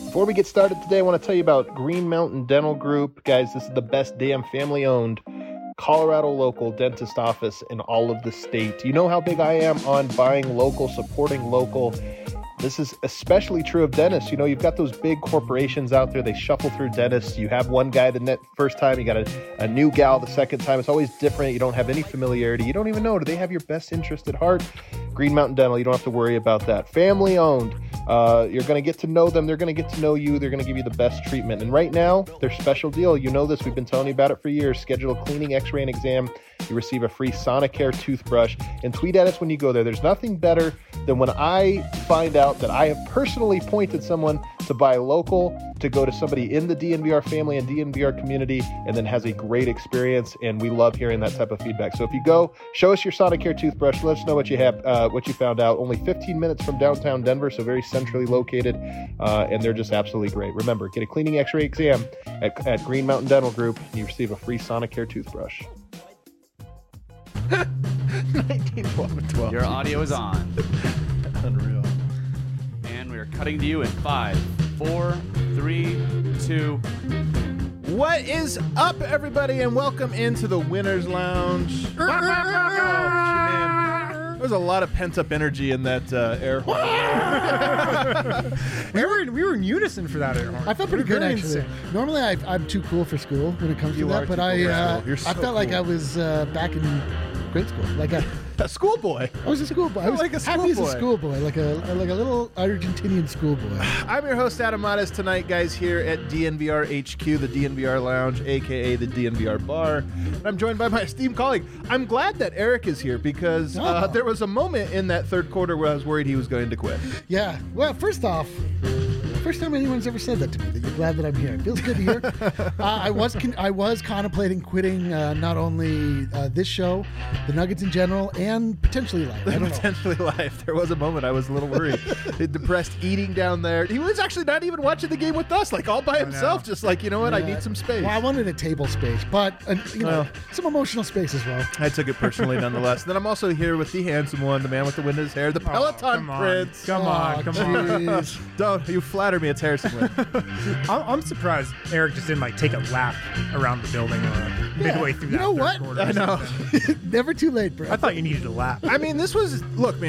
Before we get started today, I want to tell you about Green Mountain Dental Group. Guys, this is the best damn family-owned Colorado local dentist office in all of the state. You know how big I am on buying local, supporting local. This is especially true of dentists. You know, you've got those big corporations out there. They shuffle through dentists. You have one guy the first time. You got a new gal the second time. It's always different. You don't have any familiarity. You don't even know. Do they have your best interest at heart? Green Mountain Dental, you don't have to worry about that. Family owned. You're going to get to know them. They're going to get to know you. They're going to give you the best treatment. And right now, their special deal, you know this. We've been telling you about it for years. Schedule a cleaning, x-ray, and exam. You receive a free Sonicare toothbrush. And tweet at us when you go there. There's nothing better than when I find out that I have personally pointed someone to buy local, to go to somebody in the DNVR family and DNVR community, and then has a great experience. And we love hearing that type of feedback. So if you go, show us your Sonicare toothbrush. Let us know what you have, what you found out. Only 15 minutes from downtown Denver, so very centrally located, and they're just absolutely great. Remember, get a cleaning x-ray exam at Green Mountain Dental Group, and you receive a free Sonicare toothbrush. 1912. Your audio is on. Unreal. And we are cutting to you in 5, 4, 3, 2. What is up, everybody, and welcome into the Winner's Lounge. Oh, man. There's a lot of pent-up energy in that air horn. we were in unison for that air horn. I felt pretty good, Very actually. insane. Normally, I'm too cool for school when it comes You to are that, but too cool for school. You're so I felt like cool. I was back in grade school. Like A schoolboy. I was a schoolboy. I was Like a happy as a schoolboy. schoolboy, like a little Argentinian schoolboy. I'm your host, Adam Matas, tonight, guys, here at DNVR HQ, the DNVR Lounge, a.k.a. the DNVR Bar. And I'm joined by my esteemed colleague. I'm glad that Eric is here because there was a moment in that third quarter where I was worried he was going to quit. Yeah. Well, first off, first time anyone's ever said that to me, that you're glad that I'm here. It feels good to hear. I was contemplating quitting not only this show, the Nuggets in general, and potentially life. I don't know. Potentially life. There was a moment I was a little worried. Depressed eating down there. He was actually not even watching the game with us, like all by himself, just like, you know what, I need some space. Well, I wanted a table space, but some emotional space as well. I took it personally nonetheless. Then I'm also here with the handsome one, the man with the wind in his hair, the Peloton come on. Prince. Come on. Jeez. Don't you flatter me, it's Harrison Wind. I'm surprised Eric just didn't take a lap around the building or midway through You that know third what? quarter. I know. Never too late, bro. I thought you needed a lap. I mean, this was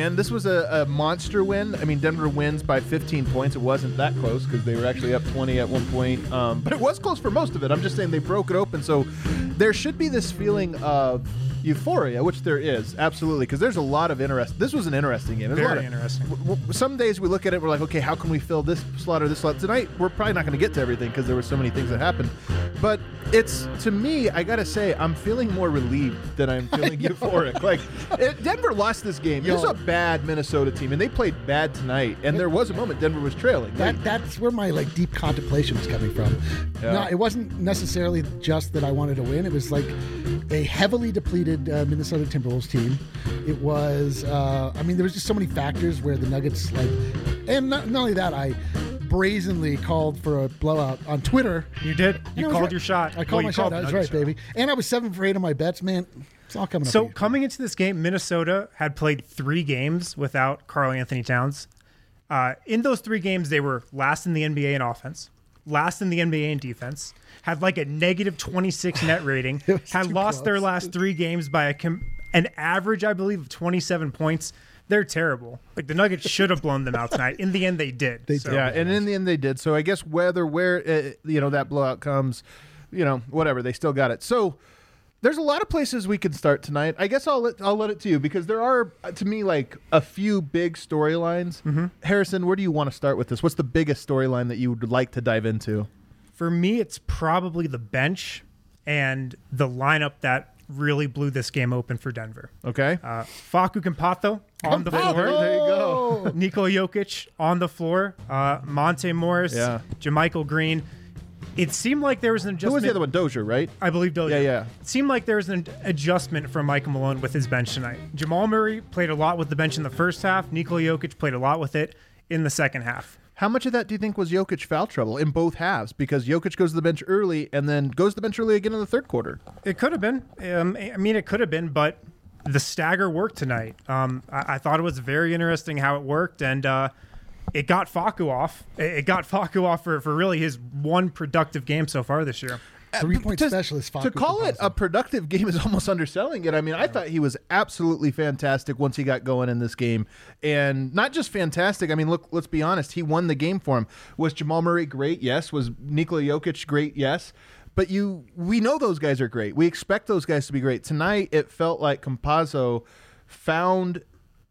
a monster win. I mean, Denver wins by 15 points. It wasn't that close because they were actually up 20 at one point. But it was close for most of it. I'm just saying they broke it open. So there should be this feeling of euphoria, which there is, absolutely, because there's a lot of interest. This was an interesting game. There's a lot Very of- interesting. Some days we look at it, we're like, okay, how can we fill this slot or this slot? Tonight, we're probably not going to get to everything because there were so many things that happened. But it's, to me, I got to say, I'm feeling more relieved than I'm feeling euphoric. Like, Denver lost this game. It was a bad Minnesota team, and they played bad tonight. And there was a moment Denver was trailing. That's where my deep contemplation was coming from. Yeah. No, it wasn't necessarily just that I wanted to win. It was like a heavily depleted Minnesota Timberwolves team. It was, there was just so many factors where the Nuggets, and not only that, I brazenly called for a blowout on Twitter. You did. And You I was called right. your shot. I called my shot. I was right, baby. And I was 7 for 8 on my bets, man. It's all coming up. So for you. coming into this game, Minnesota had played 3 games without Karl Anthony Towns. In those 3 games, they were last in the NBA in offense, last in the NBA in defense, had a negative 26 net rating, had too lost their close. last 3 games by an average, I believe, of 27 points. They're terrible. The Nuggets should have blown them out tonight. In the end, they did. They So- did. Yeah, and in the end they did. So I guess where that blowout comes, whatever, they still got it. So there's a lot of places we can start tonight. I guess I'll let it to you because there are, to me, a few big storylines. Mm-hmm. Harrison, where do you want to start with this? What's the biggest storyline that you would like to dive into? For me, it's probably the bench and the lineup that really blew this game open for Denver. Okay. Facu Campazzo on the floor. There you go. Nikola Jokic on the floor. Monte Morris. Yeah. JaMychal Green. It seemed like there was an adjustment. Who was the other one? Dozier, right? I believe Dozier. Yeah. It seemed like there was an adjustment from Michael Malone with his bench tonight. Jamal Murray played a lot with the bench in the first half. Nikola Jokic played a lot with it in the second half. How much of that do you think was Jokic foul trouble in both halves? Because Jokic goes to the bench early and then goes to the bench early again in the third quarter. It could have been. It could have been, but the stagger worked tonight. I thought it was very interesting how it worked, and it got Facu off. It got Facu off for really his one productive game so far this year. 3-point specialist. To call it a productive game is almost underselling it. I mean, I thought he was absolutely fantastic once he got going in this game. And not just fantastic. I mean, look, let's be honest. He won the game for him. Was Jamal Murray great? Yes. Was Nikola Jokic great? Yes. But we know those guys are great. We expect those guys to be great. Tonight, it felt like Campazzo found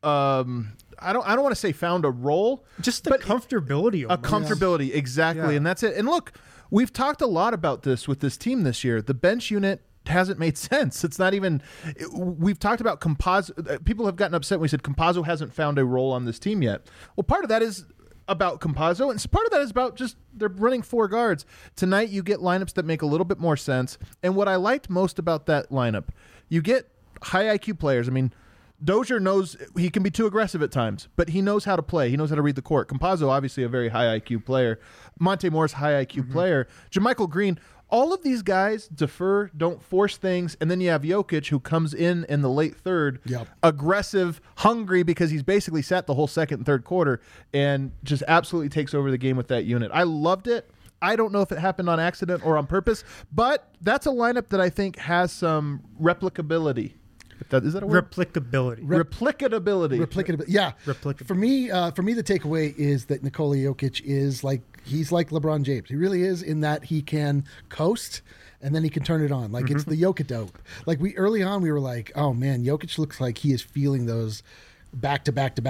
I don't want to say found a role. Just the comfortability. A comfortability, exactly. Yeah. And that's it. And look, we've talked a lot about this with this team this year. The bench unit hasn't made sense. It's not even – we've talked about Campazzo. People have gotten upset when we said Campazzo hasn't found a role on this team yet. Well, part of that is about Campazzo, and part of that is about just they're running 4 guards. Tonight you get lineups that make a little bit more sense. And what I liked most about that lineup, you get high IQ players. I mean, Dozier knows he can be too aggressive at times, but he knows how to play. He knows how to read the court. Campazzo, obviously a very high IQ player. Monte Moore's high IQ player. JaMychal Green, all of these guys defer, don't force things, and then you have Jokic who comes in the late third, aggressive, hungry because he's basically sat the whole second and third quarter and just absolutely takes over the game with that unit. I loved it. I don't know if it happened on accident or on purpose, but that's a lineup that I think has some replicability. Is that a word? Replicability. Replicability. Yeah. Replicability. For me, the takeaway is that Nikola Jokic is he's like LeBron James. He really is in that he can coast and then he can turn it on. Like it's the Jokic-dope. Like early on we were like, oh man, Jokic looks like he is feeling those back to back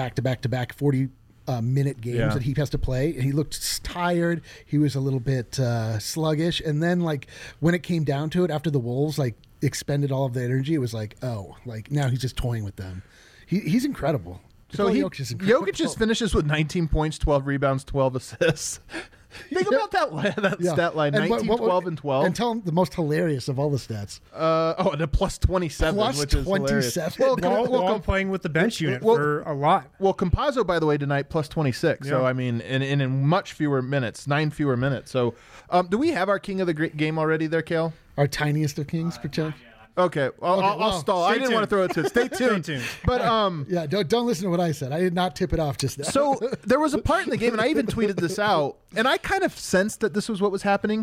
40 minute games that he has to play, and he looked tired. He was a little bit sluggish, and then when it came down to it after the Wolves expended all of the energy, it was now he's just toying with them. He's incredible. So Jokic just finishes with 19 points, 12 rebounds, 12 assists. Think about that stat line, 19, 12, and 12. And tell him the most hilarious of all the stats. And a plus 27, which is hilarious. While playing with the bench unit for a lot. Well, Campazzo, by the way, tonight, plus 26. Yeah. So, I mean, in much fewer minutes, 9 fewer minutes. So, do we have our king of the game already there, Kale? Our tiniest of kings, pretend. Okay, I'll stall. I didn't want to throw it to Stay tuned. Stay tuned. But yeah, don't listen to what I said. I did not tip it off just now. So there was a part in the game, and I even tweeted this out, and I kind of sensed that this was what was happening.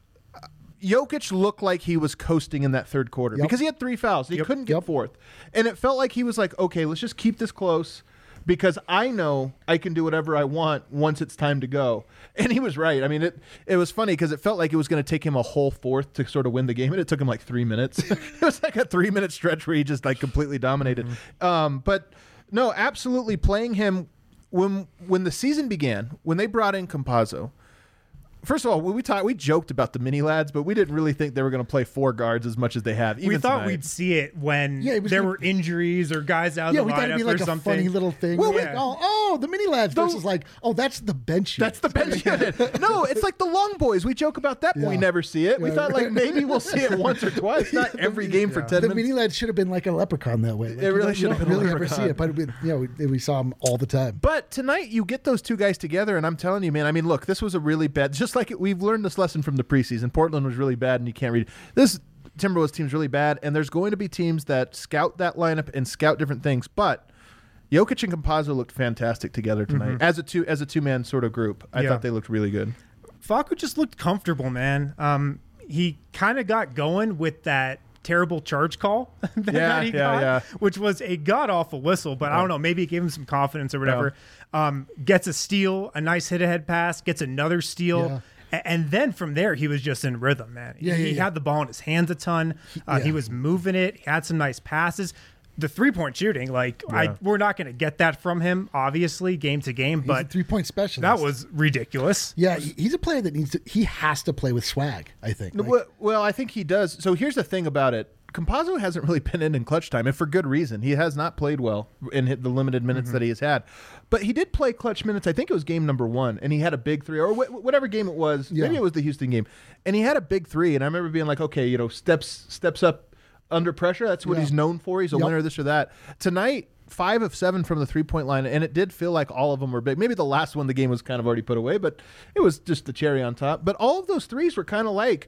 Jokic looked like he was coasting in that third quarter because he had 3 fouls. He couldn't get fourth. And it felt like he was like, okay, let's just keep this close because I know I can do whatever I want once it's time to go. And he was right. I mean, it was funny because it felt like it was going to take him a whole fourth to sort of win the game, and it took him 3 minutes. It was like a 3-minute stretch where he just completely dominated. But no, absolutely playing him when the season began, when they brought in Campazzo. First of all, we joked about the mini lads, but we didn't really think they were going to play 4 guards as much as they have. We thought we'd see it when there were injuries or guys out of the lineup or something. Yeah, we thought it'd be like a funny little thing. Well, the mini lads versus that's the bench unit. That's the bench unit. No, it's like the long boys. We joke about that, but we never see it. We thought maybe we'll see it once or twice, not every game for 10 minutes. The mini lads should have been like a leprechaun that way. It really should have been really ever see it, but we saw them all the time. But tonight, you get those 2 guys together, and I'm telling you, man, I mean, look, this was a really bad, just like we've learned this lesson from the preseason. Portland was really bad, and you can't read it. This Timberwolves team's really bad, and there's going to be teams that scout that lineup and scout different things. But Jokic and Campazzo looked fantastic together tonight as a two-man sort of group. I thought they looked really good. Facu just looked comfortable, man. He kind of got going with that terrible charge call that he got, which was a god-awful whistle, but I don't know, maybe it gave him some confidence or whatever. Gets a steal, a nice hit-ahead pass, gets another steal. And then from there, he was just in rhythm, man. He had the ball in his hands a ton. He was moving it. He had some nice passes. The 3-point shooting, we're not going to get that from him, obviously, game to game. But he's a 3-point specialist. That was ridiculous. Yeah, he's a player that he has to play with swag, I think. Well, I think he does. So here's the thing about it. Campazzo hasn't really been in clutch time, and for good reason. He has not played well in the limited minutes that he has had. But he did play clutch minutes. I think it was game number 1, and he had a big 3, or whatever game it was. Yeah. Maybe it was the Houston game. And he had a big 3, and I remember being like, okay, steps up under pressure. That's what he's known for. He's a winner, this or that. Tonight, 5 of 7 from the 3-point line, and it did feel like all of them were big. Maybe the last one, the game was kind of already put away, but it was just the cherry on top. But all of those threes were kind of like,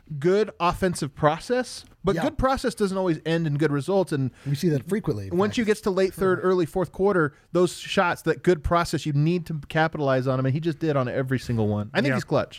good offensive process, but Yeah. good process doesn't always end in good results. And We see that frequently. in once fact. you get to late third, early fourth quarter, those shots, that good process, you need to capitalize on them, and he just did on every single one. I think Yeah. he's clutch.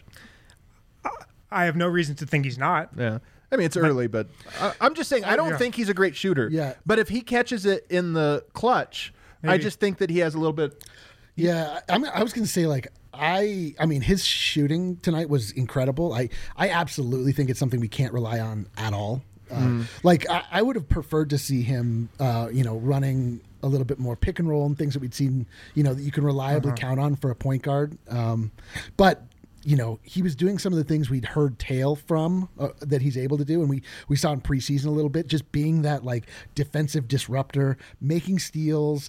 I have no reason to think he's not. Yeah. I mean, it's early, but I'm just saying I don't Yeah. think he's a great shooter. Yeah. But if he catches it in the clutch, I Maybe. just think that he has a little bit. Yeah, I was going to say like I mean his shooting tonight was incredible. I absolutely think it's something we can't rely on at all. Like I would have preferred to see him, running a little bit more pick and roll and things that we'd seen, that you can reliably count on for a point guard. But he was doing some of the things we'd heard tale from that he's able to do. And we saw in preseason a little bit, just being that like defensive disruptor, making steals,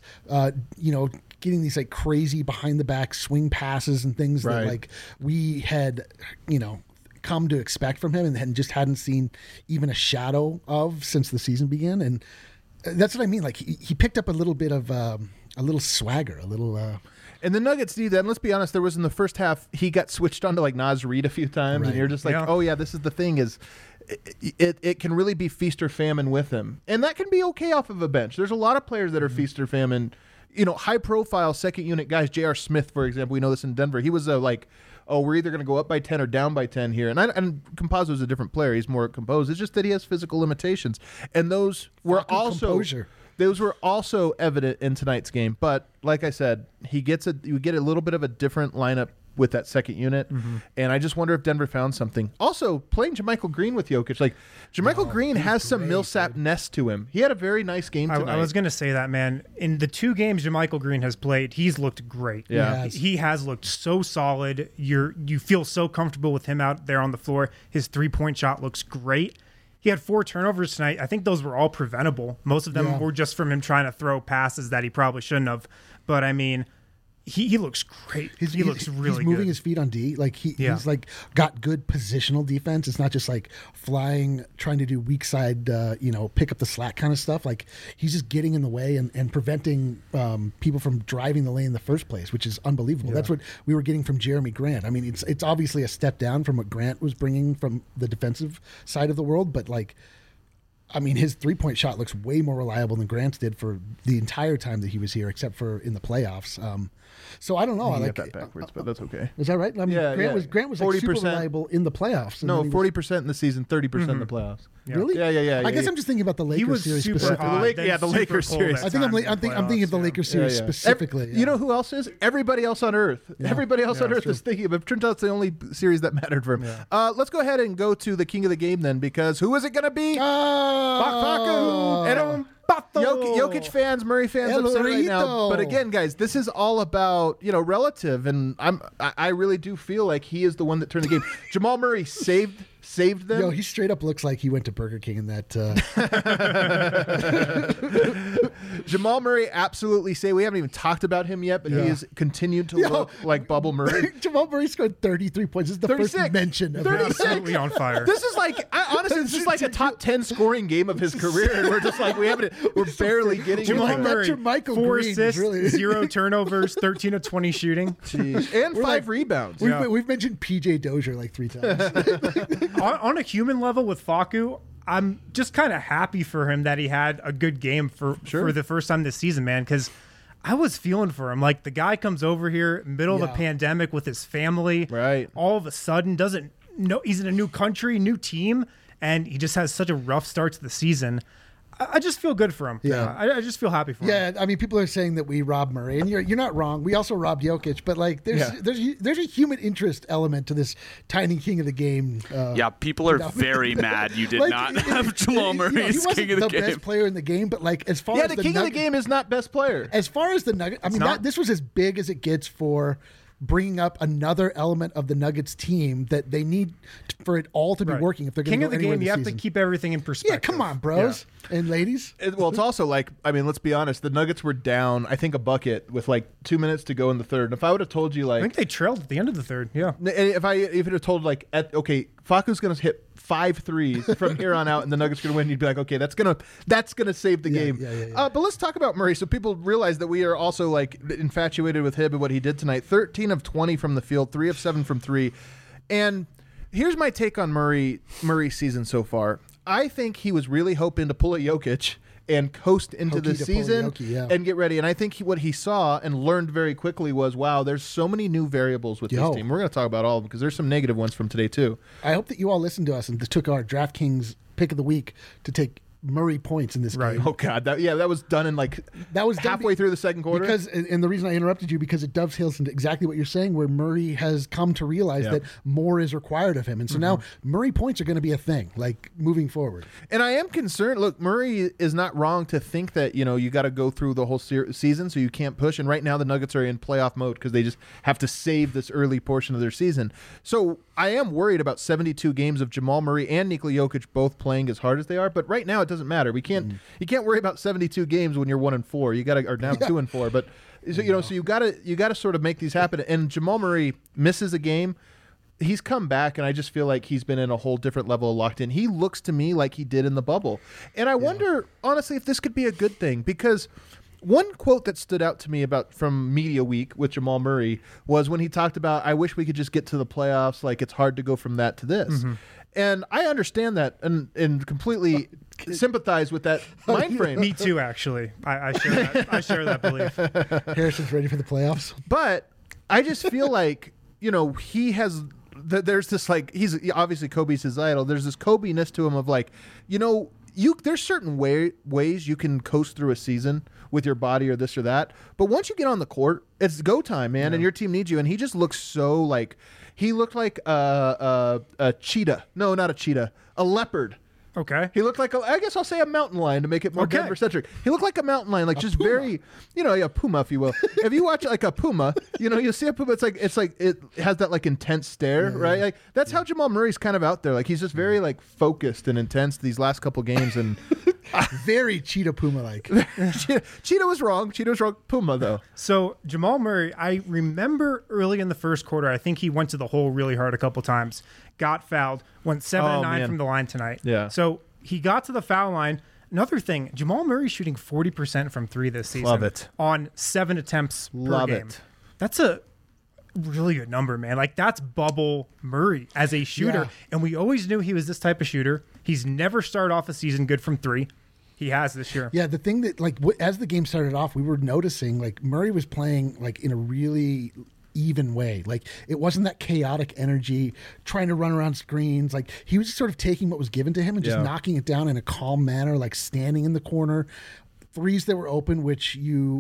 getting these like crazy behind the back swing passes and things Right. that like we had, come to expect from him and just hadn't seen even a shadow of since the season began. And that's what I mean. Like he picked up a little bit of a little swagger, a little, And the Nuggets do that. And let's be honest, there was in the first half, he got switched on to like Naz Reid a few times. Right. And you're just like, Yeah. oh, yeah, this is the thing is it can really be feast or famine with him. And that can be okay off of a bench. There's a lot of players that are feast or famine, high profile second unit guys. J.R. Smith, for example, we know this in Denver. He was like, oh, we're either going to go up by 10 or down by 10 here. And Campazzo's a different player. He's more composed. It's just that he has physical limitations. And those were Fucking also composure. those were also evident in tonight's game. But like I said, you get a little bit of a different lineup with that second unit. And I just wonder if Denver found something. Also, playing JaMychal Green with Jokic. Like, JaMychal Green has some Millsap-ness to him. He had a very nice game tonight. I was going to say that, man. In the 2 games JaMychal Green has played, he's looked great. Yeah. Yes. He has looked so solid. You feel so comfortable with him out there on the floor. His 3-point shot looks great. He had 4 turnovers tonight. I think those were all preventable. Most of them Yeah. were just from him trying to throw passes that he probably shouldn't have. But, I mean, he looks great. He looks really he's moving good. his feet on D. Like Yeah. he's like got good positional defense. It's not just like flying, trying to do weak side, pick up the slack kind of stuff. Like he's just getting in the way and preventing people from driving the lane in the first place, which is unbelievable. That's what we were getting from Jeremy Grant. I mean, it's obviously a step down from what Grant was bringing from the defensive side of the world, but like, I mean, his 3-point shot looks way more reliable than Grant's did for the entire time that he was here, except for in the playoffs. So I don't know. You Like, got that backwards, but that's okay. is that right? I mean, Yeah, Grant was like super 40%. reliable in the playoffs. and No, then he was- 40% in the season, 30% in the playoffs. Really? Yeah. I guess I'm just thinking about the Lakers was series super specifically. hot, Lake- then yeah, the super Lakers cold series. at I think times in I'm thinking of the playoffs, Lakers series specifically. You know who else is? Everybody else on Earth. Everybody else on Yeah, Earth true. is thinking of it. Turns out it's the only series that mattered for him. Let's go ahead and go to the king of the game then, because who is it going to be? Oh, And Jokic fans, Murray fans, El upset right now. Rito. But again, guys, this is all about relative, and I really do feel like he is the one that turned the game. Jamal Murray saved them. Yo, he straight up looks like he went to Burger King in that. Jamal Murray absolutely saved. We haven't even talked about him yet, but he has continued to look like Bubble Murray. Jamal Murray scored 33 points. This is the 36. first mention of him. 36. Absolutely on fire. This is like, honestly, this is like a top 10 scoring game of his career, and we're just like, we're barely getting Jamal into it. Murray, Jermichael 4 Green is assists, really- 0 turnovers, 13 of 20 shooting. And 5 rebounds. We've mentioned PJ Dozier like 3 times. On a human level with Facu, I'm just kind of happy for him that he had a good game for the first time this season, man, because I was feeling for him. Like, the guy comes over here, middle of a pandemic with his family. Right. All of a sudden, doesn't know he's in a new country, new team, and he just has such a rough start to the season. I just feel good for him. Yeah. I just feel happy for him. Yeah, I mean, people are saying that we robbed Murray, and you're not wrong. We also robbed Jokic, but like, there's a human interest element to this tiny king of the game. Yeah, people are very mad you did Like, not have Jamal Murray he as wasn't king of the the best game. player in the game, but like as far Yeah, as the king of the game is not best player. as far as the Nuggets, I mean, not. this was as big as it gets for bringing up another element of the Nuggets team that they need for it all to be Right. working if they're going King to of go the anywhere game, you have this to season. keep everything in perspective. Yeah, come on, bros and ladies. Well, it's also like, I mean, let's be honest. The Nuggets were down, I think, a bucket with like 2 minutes to go in the third. And if I would have told you, I like, think they trailed at the end of the third. Yeah. if I would have told, like, Facu's going to hit 5 threes from here on out, and the Nuggets going to win, you'd be like, okay, that's gonna save the game. yeah. But let's talk about Murray, so people realize that we are also like infatuated with him and what he did tonight. 13 of 20 from the field, 3 of 7 from 3, and here's my take on Murray's season so far. I think he was really hoping to pull a Jokic and coast into the season and get ready. And I think what he saw and learned very quickly was, wow, there's so many new variables with this team. We're going to talk about all of them because there's some negative ones from today too. I hope that you all listened to us and took our DraftKings pick of the week to take Murray points in this game. Oh God, that was done in halfway through the second quarter. Because, and the reason I interrupted you, because it dovetails into exactly what you're saying, where Murray has come to realize that more is required of him, and so now Murray points are going to be a thing, like moving forward. And I am concerned. Look, Murray is not wrong to think that you got to go through the whole season, so you can't push. And right now the Nuggets are in playoff mode because they just have to save this early portion of their season. So I am worried about 72 games of Jamal Murray and Nikola Jokic both playing as hard as they are. But right now it doesn't matter. We can't. You can't worry about 72 games when you're 1-4. You got to, or now 2-4. But so you got to sort of make these happen. And Jamal Murray misses a game. He's come back, and I just feel like he's been in a whole different level of locked in. He looks to me like he did in the bubble, and I wonder honestly if this could be a good thing, because one quote that stood out to me from Media Week with Jamal Murray was when he talked about, I wish we could just get to the playoffs. Like, it's hard to go from that to this. And I understand that and completely sympathize with that mind frame. Me too, actually. I share that belief. Harrison's ready for the playoffs. But I just feel like, he has... There's this, he's obviously Kobe's his idol. There's this Kobe-ness to him of there's certain ways you can coast through a season with your body or this or that. But once you get on the court, it's go time, man, and your team needs you. And he just looks so he looked like a cheetah. No, not a cheetah. A leopard. Okay. He looked like I guess I'll say a mountain lion to make it more Denver-centric. He looked like a mountain lion, just puma. Very, a puma, if you will. If you watch a puma, you see a puma. It's like it has that intense stare, right? That's how Jamal Murray's kind of out there. He's just very focused and intense these last couple games, and very cheetah puma like. Cheetah was wrong. Puma though. So Jamal Murray, I remember early in the first quarter, I think he went to the hole really hard a couple times. Got fouled, went 7-9 from the line tonight. Yeah. So he got to the foul line. Another thing, Jamal Murray shooting 40% from three this season. Love it. On 7 attempts per game. That's a really good number, man. That's bubble Murray as a shooter. Yeah. And we always knew he was this type of shooter. He's never started off a season good from three. He has this year. Yeah, the thing that, as the game started off, we were noticing, Murray was playing, in a really even way. It wasn't that chaotic energy, trying to run around screens. He was sort of taking what was given to him and just knocking it down in a calm manner, standing in the corner. Threes that were open, which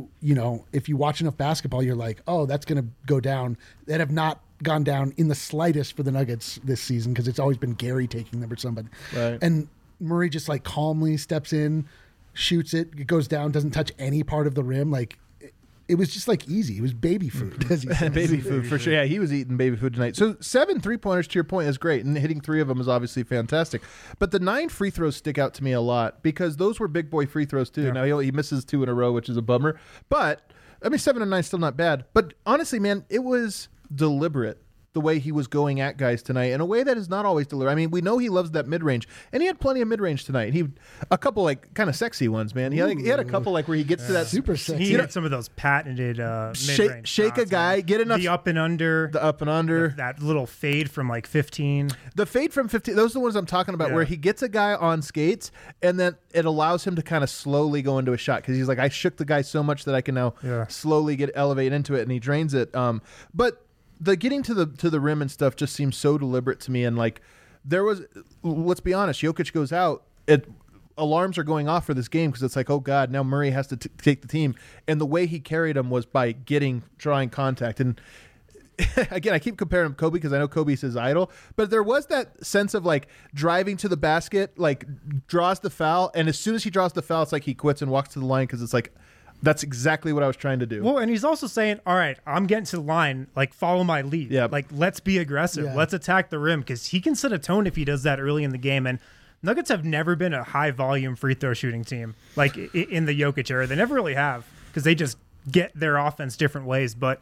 if you watch enough basketball, you're like, oh, that's going to go down. That have not gone down in the slightest for the Nuggets this season, because it's always been Gary taking them or somebody. Right. And Murray just calmly steps in, shoots it, it goes down, doesn't touch any part of the rim. It was just easy. It was baby food. As baby food for sure. Yeah, he was eating baby food tonight. So 7 3-pointers, to your point, is great, and hitting 3 of them is obviously fantastic. But the 9 free throws stick out to me a lot, because those were big boy free throws too. Yeah. Now he misses 2 in a row, which is a bummer. But 7 and 9 is still not bad. But honestly, man, it was deliberate the way he was going at guys tonight in a way that is not always deliberate. We know he loves that mid-range, and he had plenty of mid-range tonight. A couple kind of sexy ones, man. He had a couple where he gets to that super sexy. He had some of those patented mid-range shake a guy, get enough the up and under, that little fade from 15. The fade from 15. Those are the ones I'm talking about, where he gets a guy on skates, and then it allows him to kind of slowly go into a shot, because he's I shook the guy so much that I can now slowly elevate into it, and he drains it. But the getting to the rim and stuff just seems so deliberate to me. And there was, let's be honest, Jokic goes out, alarms are going off for this game, because it's oh God, now Murray has to take the team. And the way he carried him was by drawing contact. And again, I keep comparing him to Kobe, because I know Kobe's his idol, but there was that sense of driving to the basket, draws the foul, and as soon as he draws the foul, it's he quits and walks to the line, because it's that's exactly what I was trying to do. Well, and he's also saying, all right, I'm getting to the line, follow my lead. Yeah. Let's be aggressive. Yeah. Let's attack the rim, because he can set a tone if he does that early in the game. And Nuggets have never been a high-volume free throw shooting team, in the Jokic era. They never really have, because they just get their offense different ways. But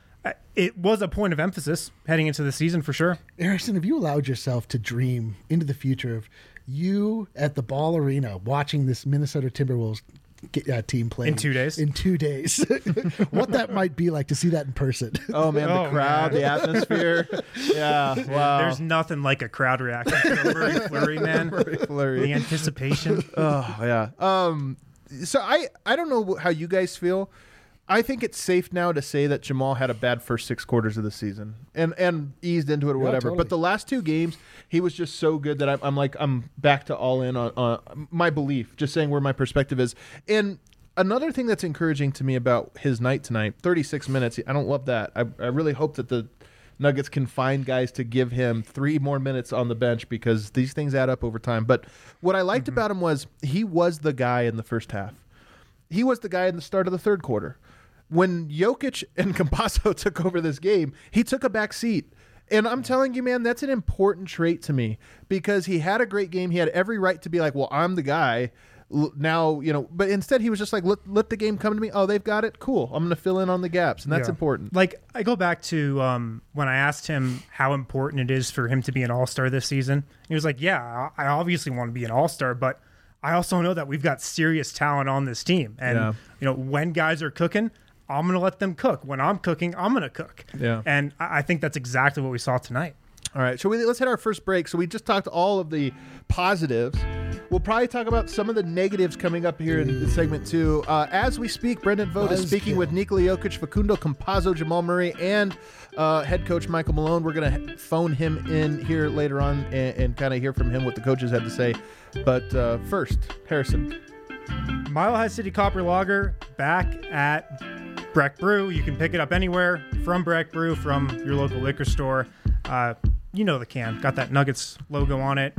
it was a point of emphasis heading into the season for sure. Harrison, have you allowed yourself to dream into the future of you at the Ball Arena watching this Minnesota Timberwolves team playing In 2 days? In 2 days, what that might be like to see that in person. Oh man, the crowd, the atmosphere. Yeah, wow. There's nothing like a crowd reaction to a Murray Fleury, man. Murray Fleury. The anticipation. Oh yeah. So I don't know how you guys feel. I think it's safe now to say that Jamal had a bad first 6 quarters of the season and eased into it or whatever. Totally. But the last 2 games, he was just so good that I'm back to all in on my belief, just saying where my perspective is. And another thing that's encouraging to me about his night tonight, 36 minutes, I don't love that. I really hope that the Nuggets can find guys to give him 3 more minutes on the bench because these things add up over time. But what I liked about him was he was the guy in the first half. He was the guy in the start of the third quarter. When Jokic and Campazzo took over this game, he took a back seat. And I'm telling you, man, that's an important trait to me because he had a great game. He had every right to be like, well, I'm the guy now, but instead he was just like, let the game come to me. Oh, they've got it. Cool. I'm going to fill in on the gaps. And that's important. Like, I go back to when I asked him how important it is for him to be an all-star this season. He was like, yeah, I obviously want to be an all-star, but I also know that we've got serious talent on this team. And, when guys are cooking, I'm going to let them cook. When I'm cooking, I'm going to cook. Yeah. And I think that's exactly what we saw tonight. All right. So let's hit our first break. So we just talked all of the positives. We'll probably talk about some of the negatives coming up here in segment 2. As we speak, Brendan Vogt is speaking with Nikola Jokic, Facundo Campazzo, Jamal Murray, and head coach Michael Malone. We're going to phone him in here later on and kind of hear from him what the coaches had to say. But first, Harrison. Mile High City Copper Lager back at Breck Brew. You can pick it up anywhere from Breck Brew, from your local liquor store. You know the can. Got that Nuggets logo on it.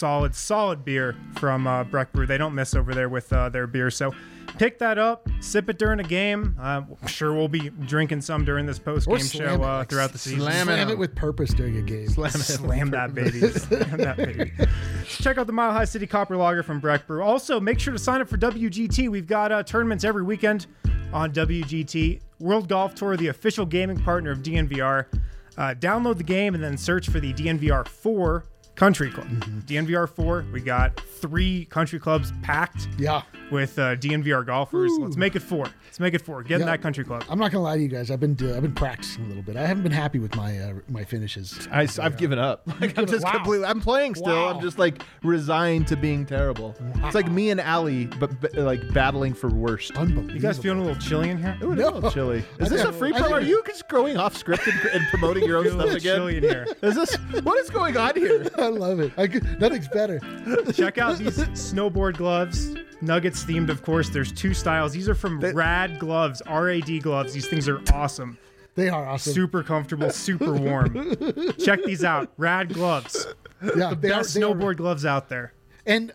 Solid beer from Breck Brew. They don't miss over there with their beer. So pick that up, sip it during a game. I'm sure we'll be drinking some during this post-game show throughout the season. Slam it with purpose during a game. Slam that baby. Slam that baby. Check out the Mile High City Copper Lager from Breck Brew. Also, make sure to sign up for WGT. We've got tournaments every weekend on WGT. World Golf Tour, the official gaming partner of DNVR. Download the game and then search for the DNVR 4 Country Club. DNVR 4, we got 3 country clubs packed with DNVR golfers. Ooh. Let's make it 4. Get in that country club. I'm not gonna lie to you guys. I've been practicing a little bit. I haven't been happy with my finishes. I've given up. I'm just completely. I'm playing still. Wow. I'm just like resigned to being terrible. It's like me and Allie, but like battling for worst. Unbelievable. You guys feeling a little chilly in here? Ooh, a little chilly. Is this a free promo? Are you just going off script and promoting your own Feeling a stuff little again? chilly in here. Is this what is going on here? I love it. Nothing's better. Check out these snowboard gloves. Nuggets themed, of course. There's 2 styles. These are from Rad Gloves, RAD gloves. These things are awesome. They are awesome. Super comfortable, super warm. Check these out. Rad Gloves. Yeah, The best snowboard gloves out there. And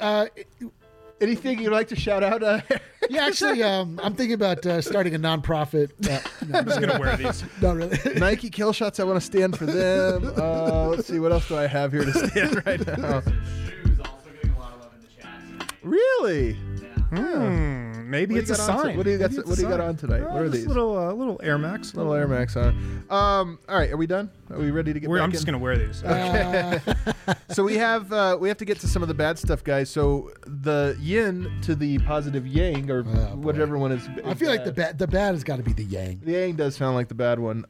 Anything you'd like to shout out? yeah, actually, I'm thinking about starting a nonprofit. I'm just going to wear these. Not really. Nike Kill Shots. I want to stand for them. Let's see. What else do I have here to stand right now? Shoes also getting a lot of love in the chat tonight. Really? Maybe it's a sign. What do you got on tonight? What are these? Little Air Max. Little Air Max on. All right, are we done? Are we ready to get back I'm just in? going to wear these. So we have to get to some of the bad stuff, guys. So the yin to the positive yang, or whatever one is. I feel like the bad has got to be the yang. The yang does sound like the bad one.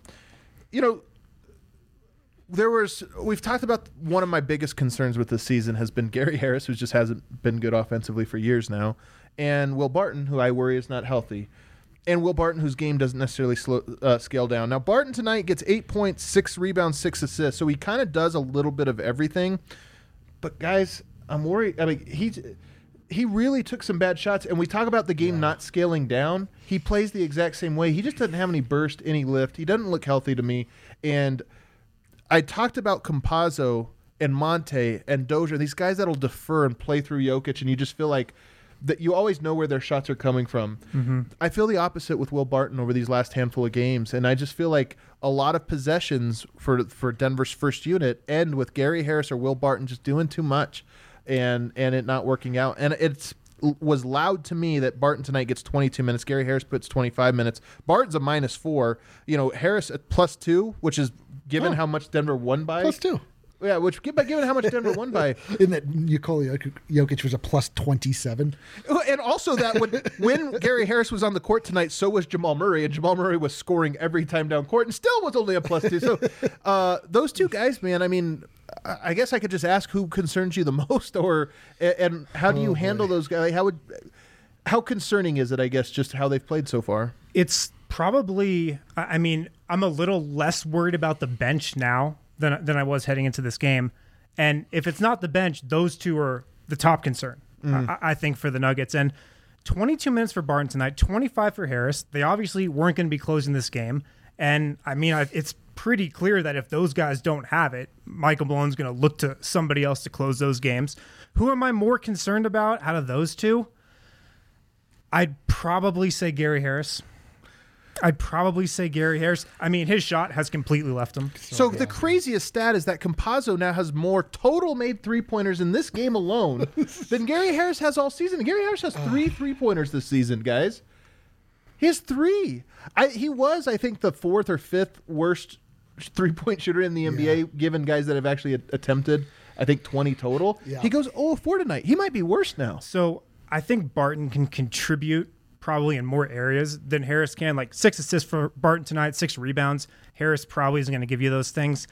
We've talked about one of my biggest concerns with this season has been Gary Harris, who just hasn't been good offensively for years now, and Will Barton, who I worry is not healthy, and Will Barton, whose game doesn't necessarily scale down. Now, Barton tonight gets 8 points, 6 rebounds, 6 assists, so he kind of does a little bit of everything. But guys, I'm worried. I mean, he really took some bad shots, and we talk about the game not scaling down. He plays the exact same way. He just doesn't have any burst, any lift. He doesn't look healthy to me, and I talked about Campazzo and Monte and Dozier, these guys that'll defer and play through Jokic, and you just feel like that you always know where their shots are coming from. Mm-hmm. I feel the opposite with Will Barton over these last handful of games, and I just feel like a lot of possessions for Denver's first unit end with Gary Harris or Will Barton just doing too much and it not working out. And it was loud to me that Barton tonight gets 22 minutes. Gary Harris puts 25 minutes. Barton's a -4. Harris at +2, which is given how much Denver won by. +2. Yeah, which given how much Denver won by, In that Nikola Jokic was a plus 27. and also that when Gary Harris was on the court tonight, so was Jamal Murray, and Jamal Murray was scoring every time down court, and still was only a plus 2. So those two guys, man. I mean, I guess I could just ask who concerns you the most, and how do you handle those guys? How concerning is it? I guess just how they've played so far. It's probably. I mean, I'm a little less worried about the bench now than I was heading into this game. And if it's not the bench, those two are the top concern, I think, for the Nuggets. And 22 minutes for Barton tonight, 25 for Harris. They obviously weren't going to be closing this game. And, I mean, it's pretty clear that if those guys don't have it, Michael Malone's going to look to somebody else to close those games. Who am I more concerned about out of those two? I'd probably say Gary Harris. I mean, his shot has completely left him. So the craziest stat is that Campazzo now has more total made three-pointers in this game alone than Gary Harris has all season. Gary Harris has 3 three-pointers this season, guys. He has 3. He was, I think, the 4th or 5th worst three-point shooter in the NBA, given guys that have actually attempted, I think, 20 total. Yeah. He goes 0-4 tonight. He might be worse now. So I think Barton can contribute probably in more areas than Harris can. Like 6 assists for Barton tonight, 6 rebounds. Harris probably isn't going to give you those things.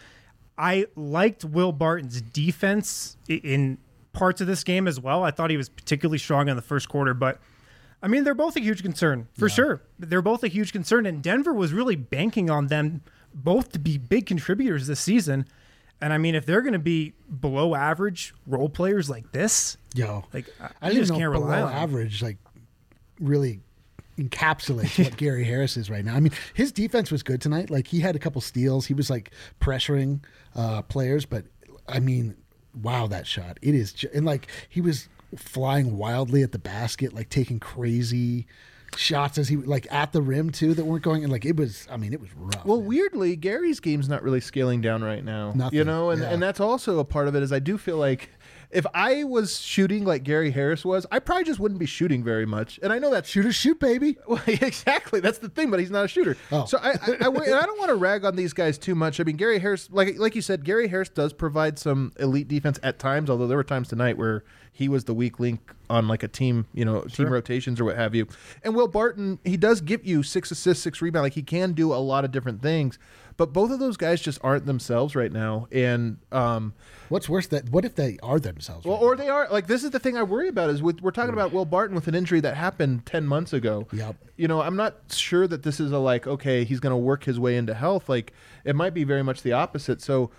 I liked Will Barton's defense in parts of this game as well. I thought he was particularly strong in the first quarter, but I mean, they're both a huge concern for sure. They're both a huge concern, and Denver was really banking on them both to be big contributors this season. And I mean, if they're going to be below average role players like this, I just can't rely on average, like, really encapsulates what Gary Harris is right now. I mean, his defense was good tonight. Like, he had a couple steals. He was like pressuring players, but I mean, wow, that shot. It is, and like, he was flying wildly at the basket, like taking crazy shots as he like at the rim too that weren't going, and like it was rough. Well, man. weirdly, Gary's game's not really scaling down right now. Nothing. You know, and that's also a part of it. Is I do feel like if I was shooting like Gary Harris was, I probably just wouldn't be shooting very much. And I know that shooters shoot, baby. Well, exactly. That's the thing, but he's not a shooter. Oh. So I don't want to rag on these guys too much. I mean, Gary Harris, like you said, Gary Harris does provide some elite defense at times, although there were times tonight where he was the weak link on like a team, team rotations or what have you. And Will Barton, he does give you 6 assists, 6 rebounds. Like, he can do a lot of different things. But both of those guys just aren't themselves right now. And what's worse, what if they are themselves? Well, or they are. Like, this is the thing I worry about is we're talking about Will Barton with an injury that happened 10 months ago. Yep. I'm not sure that this is okay, he's going to work his way into health. Like, it might be very much the opposite. So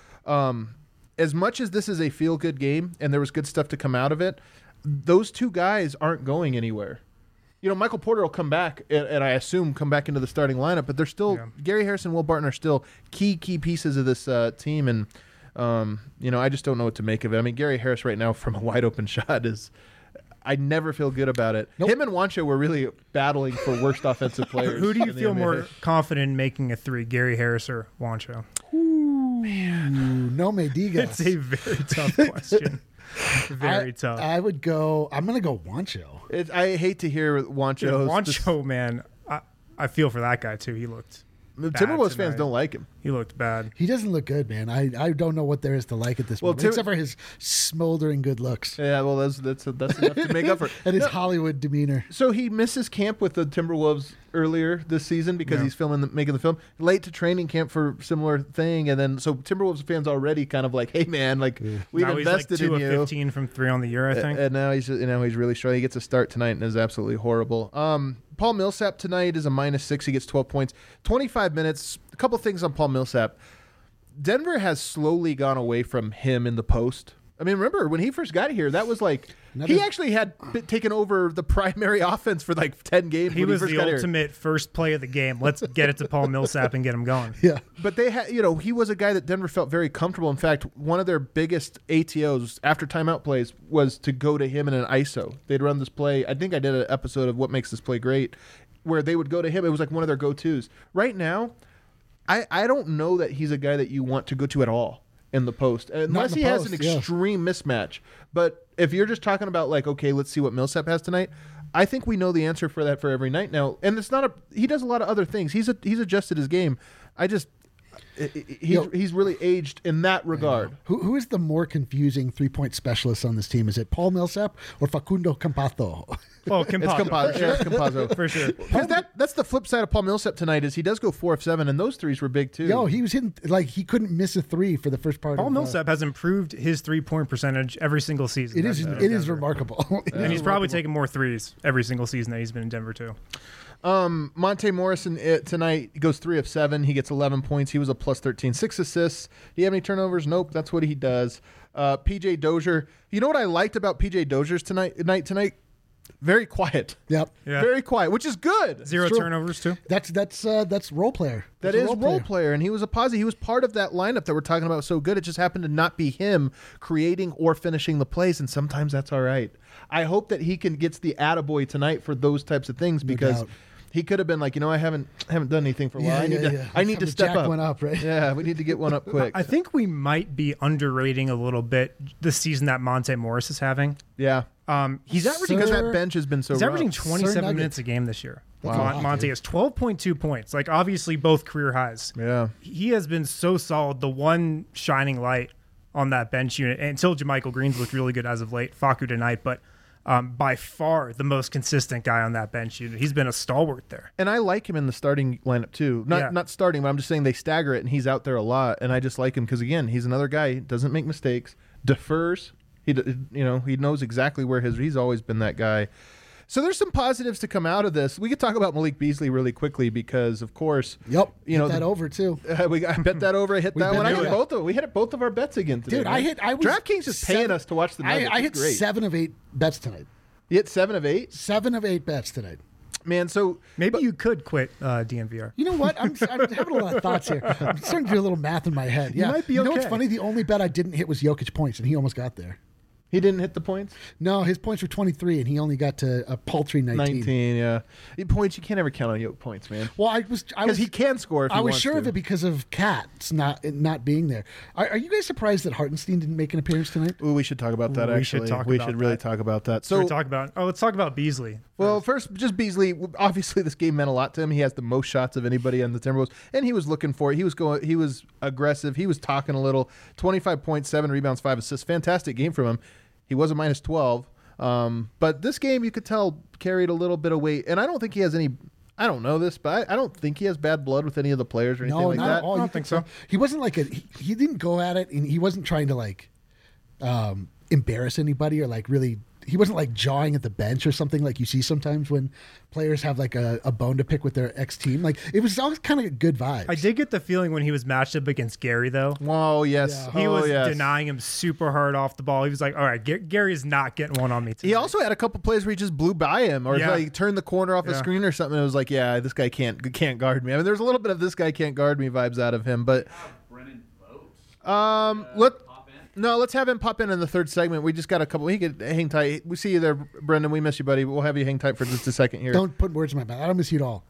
as much as this is a feel-good game and there was good stuff to come out of it, those two guys aren't going anywhere. Michael Porter will come back, and I assume come back into the starting lineup, but they're still Gary Harris and Will Barton are still key pieces of this team, and I just don't know what to make of it. I mean, Gary Harris right now from a wide open shot is, I never feel good about it. Nope. Him and Juancho were really battling for worst offensive players. Who do you feel more confident in making a 3, Gary Harris or Juancho? Ooh, man, no me digas. It's a very tough question. Very tough. I'm going to go Juancho. I hate to hear Juancho. Juancho, man, I feel for that guy too. He looked Timberwolves fans don't like him. He looked bad. He doesn't look good, man. I don't know what there is to like at this moment, except for his smoldering good looks. Yeah, well, that's enough to make up for it. And his Hollywood demeanor. So he misses camp with the Timberwolves earlier this season because he's making the film. Late to training camp for similar thing, and then so Timberwolves fans already kind of like, hey man, like we've invested in you. 2 of 15 from 3 on the year, I think. And now he's really strong. He gets a start tonight and is absolutely horrible. Paul Millsap tonight is a -6. He gets 12 points, 25 minutes. A couple things on Paul Millsap. Denver has slowly gone away from him in the post. I mean, remember when he first got here, that was like he actually had taken over the primary offense for like 10 games. He was the ultimate first play of the game. Let's get it to Paul Millsap and get him going. Yeah, but they had, he was a guy that Denver felt very comfortable. In fact, one of their biggest ATOs after timeout plays was to go to him in an ISO. They'd run this play. I think I did an episode of What Makes This Play Great, where they would go to him. It was like one of their go-tos. Right now, I don't know that he's a guy that you want to go to at all in the post, unless he has an extreme mismatch. But if you're just talking about like, okay, let's see what Millsap has tonight, I think we know the answer for that for every night now. And it's not he does a lot of other things. He's adjusted his game. he's really aged in that regard. Who is the more confusing 3-point specialist on this team? Is it Paul Millsap or Facundo Campazzo? Oh, It's Campazzo. for sure. Because that's the flip side of Paul Millsap tonight is he does go 4 of 7, and those threes were big too. Yo, he was hitting like he couldn't miss a 3 for the first part. Paul Millsap has improved his 3-point percentage every single season. It is remarkable. And he's probably taking more threes every single season that he's been in Denver too. Monte Morrison tonight goes 3 of 7. He gets 11 points. He was a plus 13, 6 assists. Do you have any turnovers? Nope. That's what he does. PJ Dozier. You know what I liked about PJ Dozier's tonight? Very quiet. Yep. Yeah. Very quiet, which is good. Zero true. turnovers too. That's role player. That is role player, and he was a positive. He was part of that lineup that we're talking about so good. It just happened to not be him creating or finishing the plays, and sometimes that's all right. I hope that he gets the attaboy tonight for those types of things because he could have been like, I haven't done anything for a while. I need to step up. One up, right? Yeah, we need to get one up quick. I think we might be underrating a little bit the season that Monte Morris is having. Yeah. He's averaging Because that bench has been so He's averaging rough. 27 minutes a game this year. Wow. Monte has 12.2 points. Like, obviously, both career highs. Yeah. He has been so solid. The one shining light on that bench unit, until JaMychal Green's looked really good as of late, Facu tonight, but by far the most consistent guy on that bench unit. He's been a stalwart there. And I like him in the starting lineup, too. Not starting, but I'm just saying they stagger it, and he's out there a lot, and I just like him because, again, he's another guy. He doesn't make mistakes, defers. He knows exactly where he's always been that guy. So there's some positives to come out of this. We could talk about Malik Beasley really quickly because, of course, hit that over too. I bet that over. I hit that one. I hit both of them. We hit both of our bets again today. Dude, right? DraftKings is paying us to watch the Nuggets. I hit Great. 7 of 8 bets tonight. You hit 7 of 8. 7 of 8 bets tonight. Man, so maybe you could quit DNVR. You know what? I'm having a lot of thoughts here. I'm starting to do a little math in my head. Yeah, you might be You okay. know what's funny? The only bet I didn't hit was Jokic points, and he almost got there. he didn't hit the points. No, his points were 23, and he only got to a paltry 19. 19, yeah. Points, you can't ever count on Yoke points, man. Well, I Because was he can score if he I was wants sure to. of it because of Katz not being there. Are you guys surprised that Hartenstein didn't make an appearance tonight? Ooh, we should talk about that, We should actually. talk We about should really that. talk about that. So let's talk about Beasley. Well, first, just Beasley. Obviously, this game meant a lot to him. He has the most shots of anybody on the Timberwolves, and he was looking for it. He was aggressive. He was talking a little. 25 points, 7 rebounds, 5 assists. Fantastic game from him. He was a minus 12. But this game, you could tell, carried a little bit of weight. And I don't think he has any. I don't know this, but I don't think he has bad blood with any of the players or anything like not that. at all. I don't You think could so. tell. He wasn't like he didn't go at it, and he wasn't trying to embarrass anybody or really. He wasn't jawing at the bench or something like you see sometimes when players have a bone to pick with their ex team. It was always kind of good vibes. I did get the feeling when he was matched up against Gary, though. Whoa, yes. Yeah. He was yes. denying him super hard off the ball. He was like, all right, Gary is not getting one on me tonight. He also had a couple plays where he just blew by him or Yeah. turned the corner off the Yeah. screen or something. It was like, yeah, this guy can't guard me. I mean, there's a little bit of this guy can't guard me vibes out of him. But Brennan Vogt. let's have him pop in the third segment. We just got a couple. He could hang tight. We see you there, Brendan. We miss you, buddy. We'll have you hang tight for just a second here. Don't put words in my mouth. I don't miss you at all.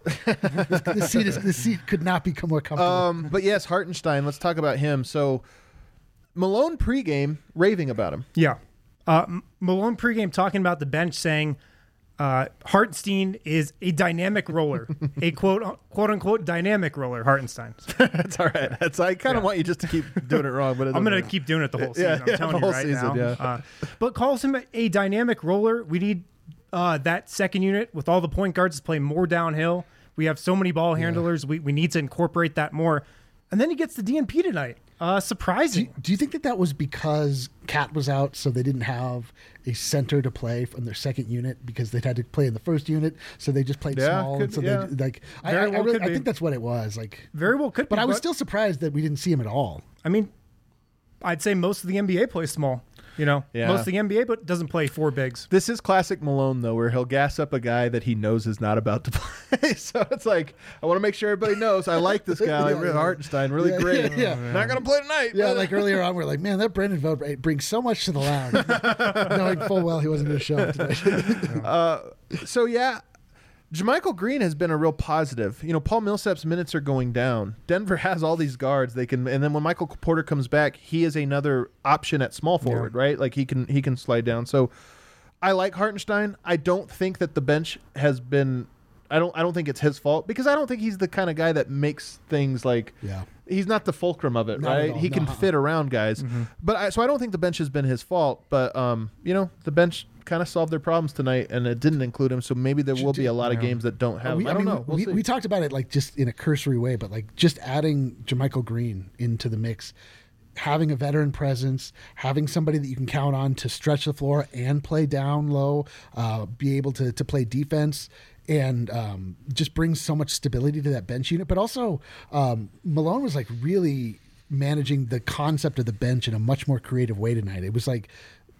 The seat could not be more comfortable. But yes, Hartenstein. Let's talk about him. So Malone pregame raving about him. Yeah. Malone pregame talking about the bench saying Hartenstein is a dynamic roller, a quote unquote dynamic roller, Hartenstein. That's all right. I kind of want you just to keep doing it wrong, but I'm going to keep doing it the whole season. Yeah, I'm telling the you whole right season, now. yeah. But calls him a dynamic roller. We need that second unit with all the point guards to play more downhill. We have so many ball handlers. We need to incorporate that more. And then he gets the DNP tonight. Surprising. Do you think that was because Cat was out, so they didn't have a center to play from their second unit because they'd had to play in the first unit, so they just played small. could- and so yeah. they I think that's what it was. Very well could be. But I was still surprised that we didn't see him at all. I mean, I'd say most of the NBA plays small. Yeah. Most of the NBA, but doesn't play four bigs. This is classic Malone, though, where he'll gas up a guy that he knows is not about to play. So it's like, I want to make sure everybody knows I like this guy, Hartenstein, really great. Yeah. Not going to play tonight. Yeah, earlier on, we're like, man, that Brendan Vogt brings so much to the lounge, knowing full well he wasn't going to show up today. So, yeah, JaMychal Green has been a real positive. Paul Millsap's minutes are going down. Denver has all these guards. And then when Michael Porter comes back, he is another option at small forward, right? He can slide down. So I like Hartenstein. I don't think that the bench has been I don't think it's his fault because I don't think he's the kind of guy that makes things like. Yeah. He's not the fulcrum of it, Not at right? all. He can No, fit around guys, but so I don't think the bench has been his fault. But the bench kind of solved their problems tonight, and it didn't include him. So maybe there will be a lot of games that don't have. I don't know. We'll see. We talked about it like just in a cursory way, but like just adding JaMychal Green into the mix, having a veteran presence, having somebody that you can count on to stretch the floor and play down low, be able to play defense. And just brings so much stability to that bench unit. But also, Malone was like really managing the concept of the bench in a much more creative way tonight. It was like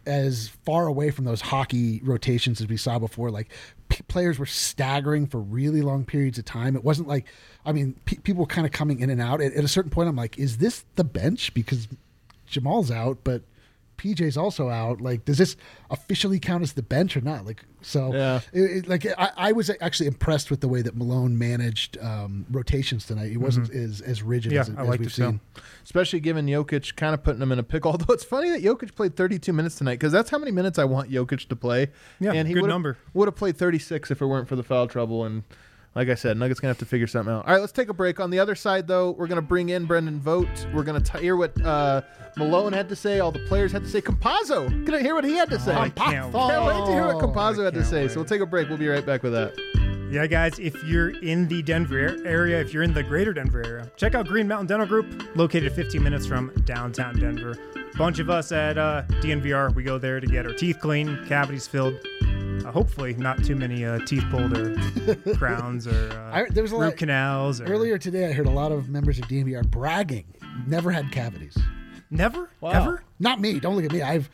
as far away from those hockey rotations as we saw before. Like players were staggering for really long periods of time. It wasn't like, people were kind of coming in and out. At a certain point, I'm like, is this the bench? Because Jamal's out, but PJ's also out. Like, does this officially count as the bench or not? Like, so yeah. I was actually impressed with the way that Malone managed rotations tonight. It wasn't as rigid as we've seen. Especially given Jokic kind of putting him in a pickle. Although it's funny that Jokic played 32 minutes tonight because that's how many minutes I want Jokic to play. Yeah, and he good number. Would have played 36 if it weren't for the foul trouble. And like I said, Nuggets going to have to figure something out. All right, let's take a break. On the other side, though, we're going to bring in Brendan Vogt. We're going to hear what Malone had to say, all the players had to say. Compazzo, going to hear what he had to say. I Can't wait to hear what Compazzo had to say. wait. So we'll take a break. We'll be right back with that. Yeah, guys, if you're in the Denver area, if you're in the greater Denver area, check out Green Mountain Dental Group, located 15 minutes from downtown Denver. Bunch of us at DNVR, we go there to get our teeth cleaned, cavities filled. Hopefully not too many teeth pulled or crowns or There was a root canals. Or... Earlier today, I heard a lot of members of DNVR bragging. Never had cavities. Never? Wow. Ever? Not me. Don't look at me. I've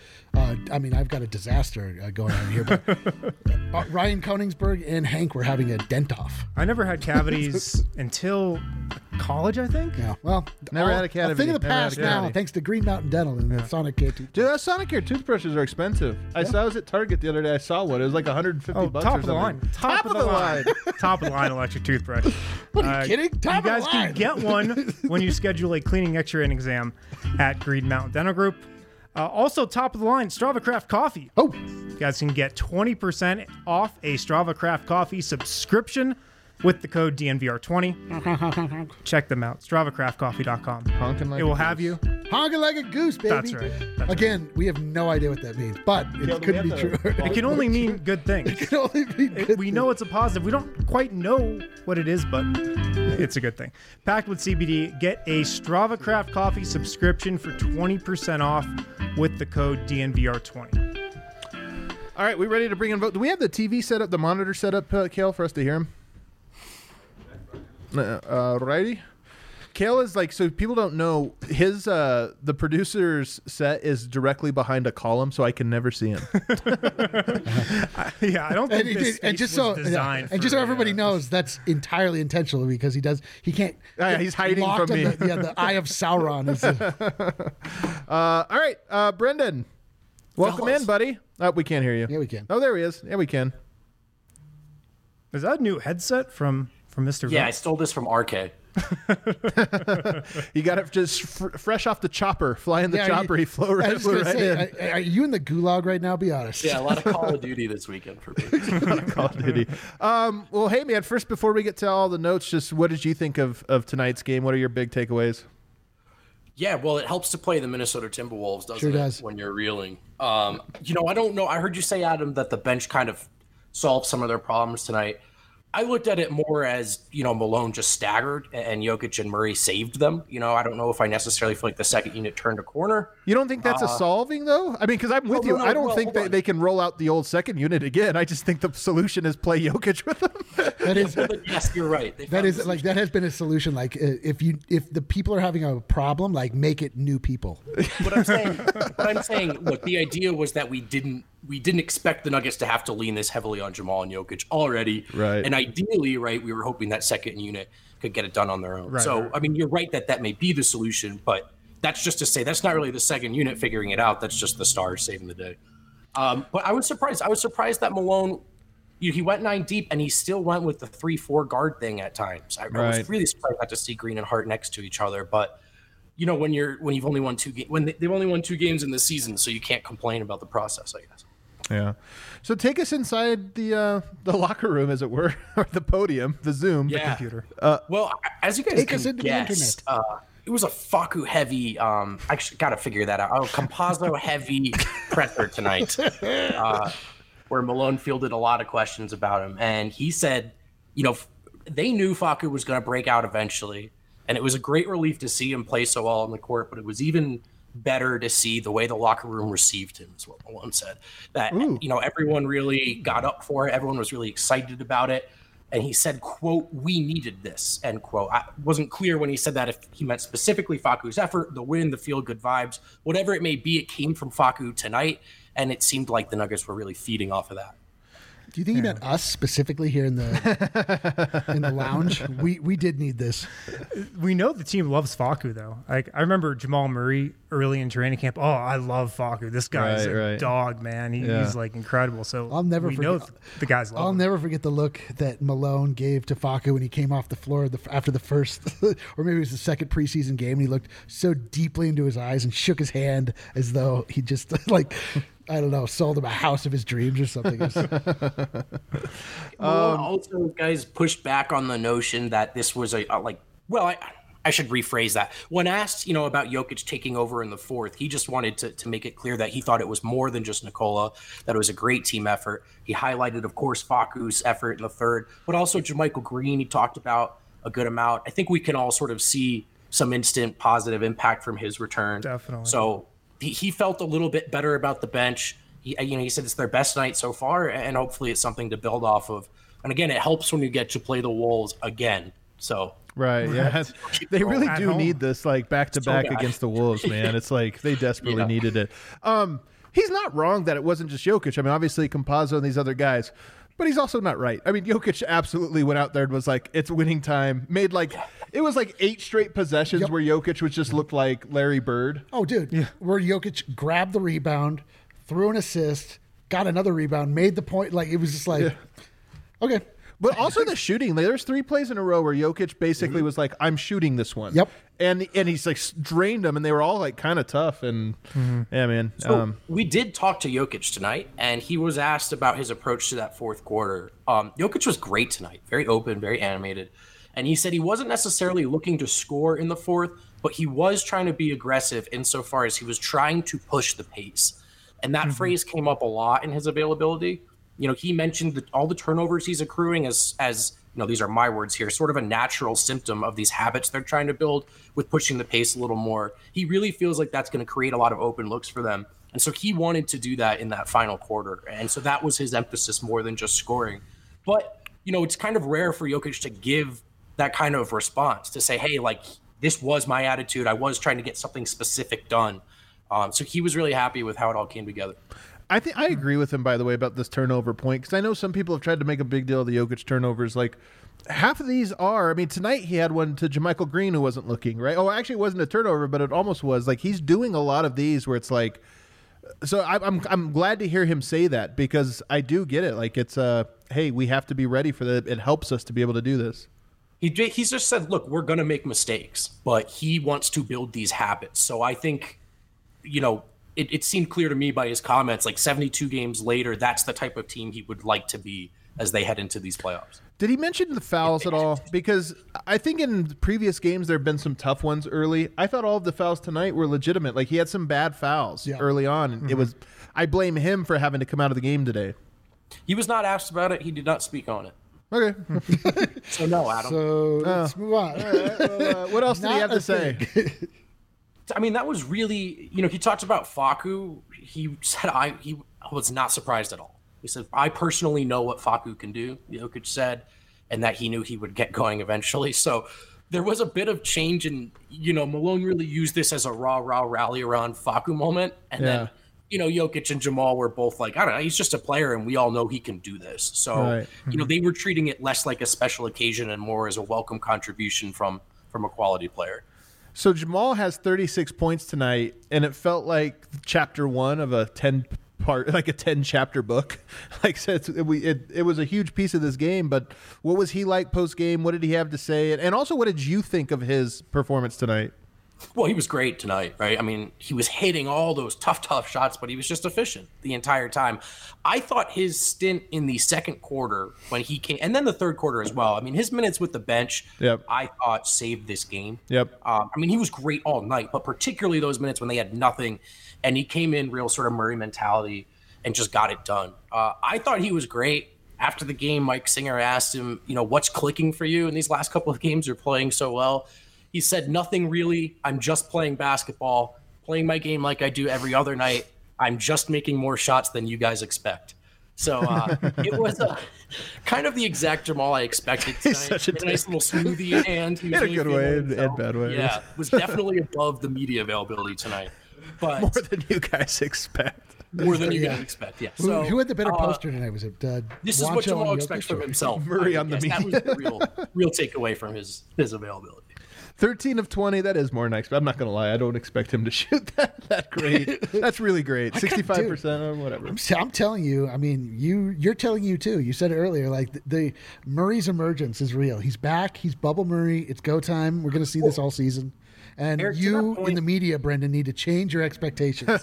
got a disaster going on here. But Ryan Koenigsberg and Hank were having a dent off. I never had cavities until college, I think. Yeah. Well, Never had a cavity. A thing of the Never had a past now, cavity. thanks to Green Mountain Dental and the Sonicare. Dude, those Sonicare toothbrushes are expensive. I was at Target the other day. I saw one. It was like 150 bucks top or of the something. line. Top of the line. Top of the line electric toothbrush. What are you kidding? Top you of the guys line. can get one when you schedule a cleaning, X-ray, and exam at Green Mountain Dental Group. Also, top of the line, Strava Craft Coffee. Oh, You guys can get 20% off a Strava Craft Coffee subscription with the code DNVR20. Check them out, StravaCraftCoffee.com. Honking like It will a have goose. you. honking like a goose, baby. That's right. That's Again, we have no idea what that means, but it could be true. It can only mean good things. It can only be good. We know it's a positive. We don't quite know what it is, but it's a good thing. Packed with CBD, get a Strava Craft Coffee subscription for 20% off with the code DNVR20. All right, we ready to bring in Vogt? Do we have the TV set up, the monitor set up, Kale, for us to hear him? Righty. Kale is like, so people don't know, his the producer's set is directly behind a column, so I can never see him. Yeah, I don't think And, this and space just was so designed and just so for, everybody knows, that's entirely intentional because he can't. Yeah, he's hiding locked from on me. The eye of Sauron. All right, Brendan, welcome Fellas. in, buddy. We can't hear you. Yeah, we can. Oh, there he is. Yeah, we can. Is that a new headset from Mr. Yeah, I Vogt? stole this from RK. You got it just fresh off the chopper, flying the Yeah, chopper. He flew I right, was flew gonna right say, in. are you in the gulag right now? Be honest. Yeah, a lot of Call of Duty this weekend for me. Call of Duty. Well, hey, man, first, before we get to all the notes, just what did you think of tonight's game? What are your big takeaways? Yeah, well, it helps to play the Minnesota Timberwolves, doesn't Sure it? does. When you're reeling. I don't know. I heard you say, Adam, that the bench kind of solved some of their problems tonight. I looked at it more as, Malone just staggered and Jokic and Murray saved them. I don't know if I necessarily feel like the second unit turned a corner. You don't think that's a solving, though? I mean, because I'm with you. no, I don't well, think hold on. they can roll out the old second unit again. I just think the solution is play Jokic with them. That is. Well, yes, you're right. They That found is this- like that has been a solution. Like if the people are having a problem, like make it new people. What I'm saying, look, the idea was that we didn't expect the Nuggets to have to lean this heavily on Jamal and Jokic already. Right. And ideally, right, we were hoping that second unit could get it done on their own. Right, so, right. I mean, you're right that may be the solution, but that's just to say that's not really the second unit figuring it out. That's just the stars saving the day. But I was surprised. I was surprised that Malone, he went 9 deep and he still went with the 3-4 guard thing at times. I Right. was really surprised not to see Green and Hart next to each other, but when you've only won 2 games, when they've only won 2 games in the season, so you can't complain about the process, I guess. Yeah. So take us inside the locker room, as it were, or the podium, the Zoom, the Computer. Well, as you guys Take can us into the guess, it was a Facu heavy. I actually got to figure that out. Campazzo heavy presser tonight, where Malone fielded a lot of questions about him, and he said, they knew Facu was going to break out eventually, and it was a great relief to see him play so well on the court. But it was even better to see the way the locker room received him, is what Malone said. That everyone really got up for it. Everyone was really excited about it. And he said, quote, "We needed this," end quote. I wasn't clear when he said that if he meant specifically Facu's effort, the win, the feel-good vibes, whatever it may be, it came from Facu tonight, and it seemed like the Nuggets were really feeding off of that. Do you think he meant us specifically here in the lounge? We did need this. We know the team loves Facu, though. Like, I remember Jamal Murray early in training camp. Oh, I love Facu. This guy's a dog, man. He's like incredible. So I'll never we forget, know the guys love him. never forget the look that Malone gave to Facu when he came off the floor after the first, or maybe it was the second preseason game. And he looked so deeply into his eyes and shook his hand as though he just I don't know, sold him a house of his dreams or something. Also, guys pushed back on the notion that this was I should rephrase that. When asked, about Jokic taking over in the fourth, he just wanted to make it clear that he thought it was more than just Nikola, that it was a great team effort. He highlighted, of course, Facu's effort in the third, but also JaMychal Green, he talked about a good amount. I think we can all sort of see some instant positive impact from his return. Definitely. So he felt a little bit better about the bench. He said it's their best night so far, and hopefully it's something to build off of. And again, it helps when you get to play the Wolves again. So right, yeah, they really do need this back to back against the Wolves, man. It's like they desperately needed it. He's not wrong that it wasn't just Jokic. I mean, obviously Campazzo and these other guys, but he's also not right. I mean, Jokic absolutely went out there and was like, "It's winning time." Made it was 8 straight possessions where Jokic was just looked like Larry Bird. Oh, dude, where Jokic grabbed the rebound, threw an assist, got another rebound, made the point. It was just okay. But also the shooting. There's 3 plays in a row where Jokic basically was like, "I'm shooting this one." Yep. And he's drained them, and they were all kind of tough. And yeah, man. So we did talk to Jokic tonight, and he was asked about his approach to that fourth quarter. Jokic was great tonight, very open, very animated. And he said he wasn't necessarily looking to score in the fourth, but he was trying to be aggressive insofar as he was trying to push the pace. And that phrase came up a lot in his availability. He mentioned all the turnovers he's accruing as these are my words here, sort of a natural symptom of these habits they're trying to build with pushing the pace a little more. He really feels like that's going to create a lot of open looks for them. And so he wanted to do that in that final quarter. And so that was his emphasis more than just scoring. But, it's kind of rare for Jokic to give that kind of response, to say, hey, this was my attitude. I was trying to get something specific done. So he was really happy with how it all came together. I think I agree with him, by the way, about this turnover point, because I know some people have tried to make a big deal of the Jokic turnovers. Half of these are, tonight he had one to JaMychal Green who wasn't looking, right? Oh, actually, it wasn't a turnover, but it almost was. He's doing a lot of these where it's so I'm glad to hear him say that, because I do get it. It's hey, we have to be ready for that. It helps us to be able to do this. He's just said, look, we're going to make mistakes, but he wants to build these habits. So I think, it seemed clear to me by his comments, 72 games later, that's the type of team he would like to be as they head into these playoffs. Did he mention the fouls at all? Because I think in previous games there have been some tough ones early. I thought all of the fouls tonight were legitimate. He had some bad fouls early on, and I blame him for having to come out of the game today. He was not asked about it. He did not speak on it. Okay. So no, Adam. So let's move on. What else did he have to say? That was really, he talked about Facu. He said he was not surprised at all. He said, I personally know what Facu can do, Jokic said, and that he knew he would get going eventually. So there was a bit of change, and, Malone really used this as a rah-rah rally around Facu moment. And then, Jokic and Jamal were both I don't know, he's just a player, and we all know he can do this. So, they were treating it less like a special occasion and more as a welcome contribution from a quality player. So Jamal has 36 points tonight, and it felt like chapter 1 of a 10-chapter book. It was a huge piece of this game. But what was he like post game? What did he have to say? And also, what did you think of his performance tonight? Well, he was great tonight, right? I mean, he was hitting all those tough shots, but he was just efficient the entire time. I thought his stint in the second quarter when he came, and then the third quarter as well. I mean, his minutes with the bench, I thought saved this game. I mean, he was great all night, but particularly those minutes when they had nothing, and he came in real sort of Murray mentality and just got it done. I thought he was great. After the game, Mike Singer asked him, what's clicking for you in these last couple of games? You're playing so well. He said, nothing really. I'm just playing basketball, playing my game like I do every other night. I'm just making more shots than you guys expect. So it was kind of the exact Jamal I expected tonight. He's such a nice little smoothie in hand. In a good way and bad way. Yeah, was definitely above the media availability tonight. But more than you guys expect. More than you guys expect, yeah. So, who had the better poster tonight? Was it this is what Jamal expects from himself. Murray on the media. That was the real takeaway from his availability. 13 of 20, that is more than I expect. I'm not going to lie. I don't expect him to shoot that great. That's really great. 65% or whatever. I'm telling you, I mean, you're telling you too. You said it earlier, like the Murray's emergence is real. He's back. He's Bubble Murray. It's go time. We're going to see this all season. And Eric, you in the media, Brendan, need to change your expectations.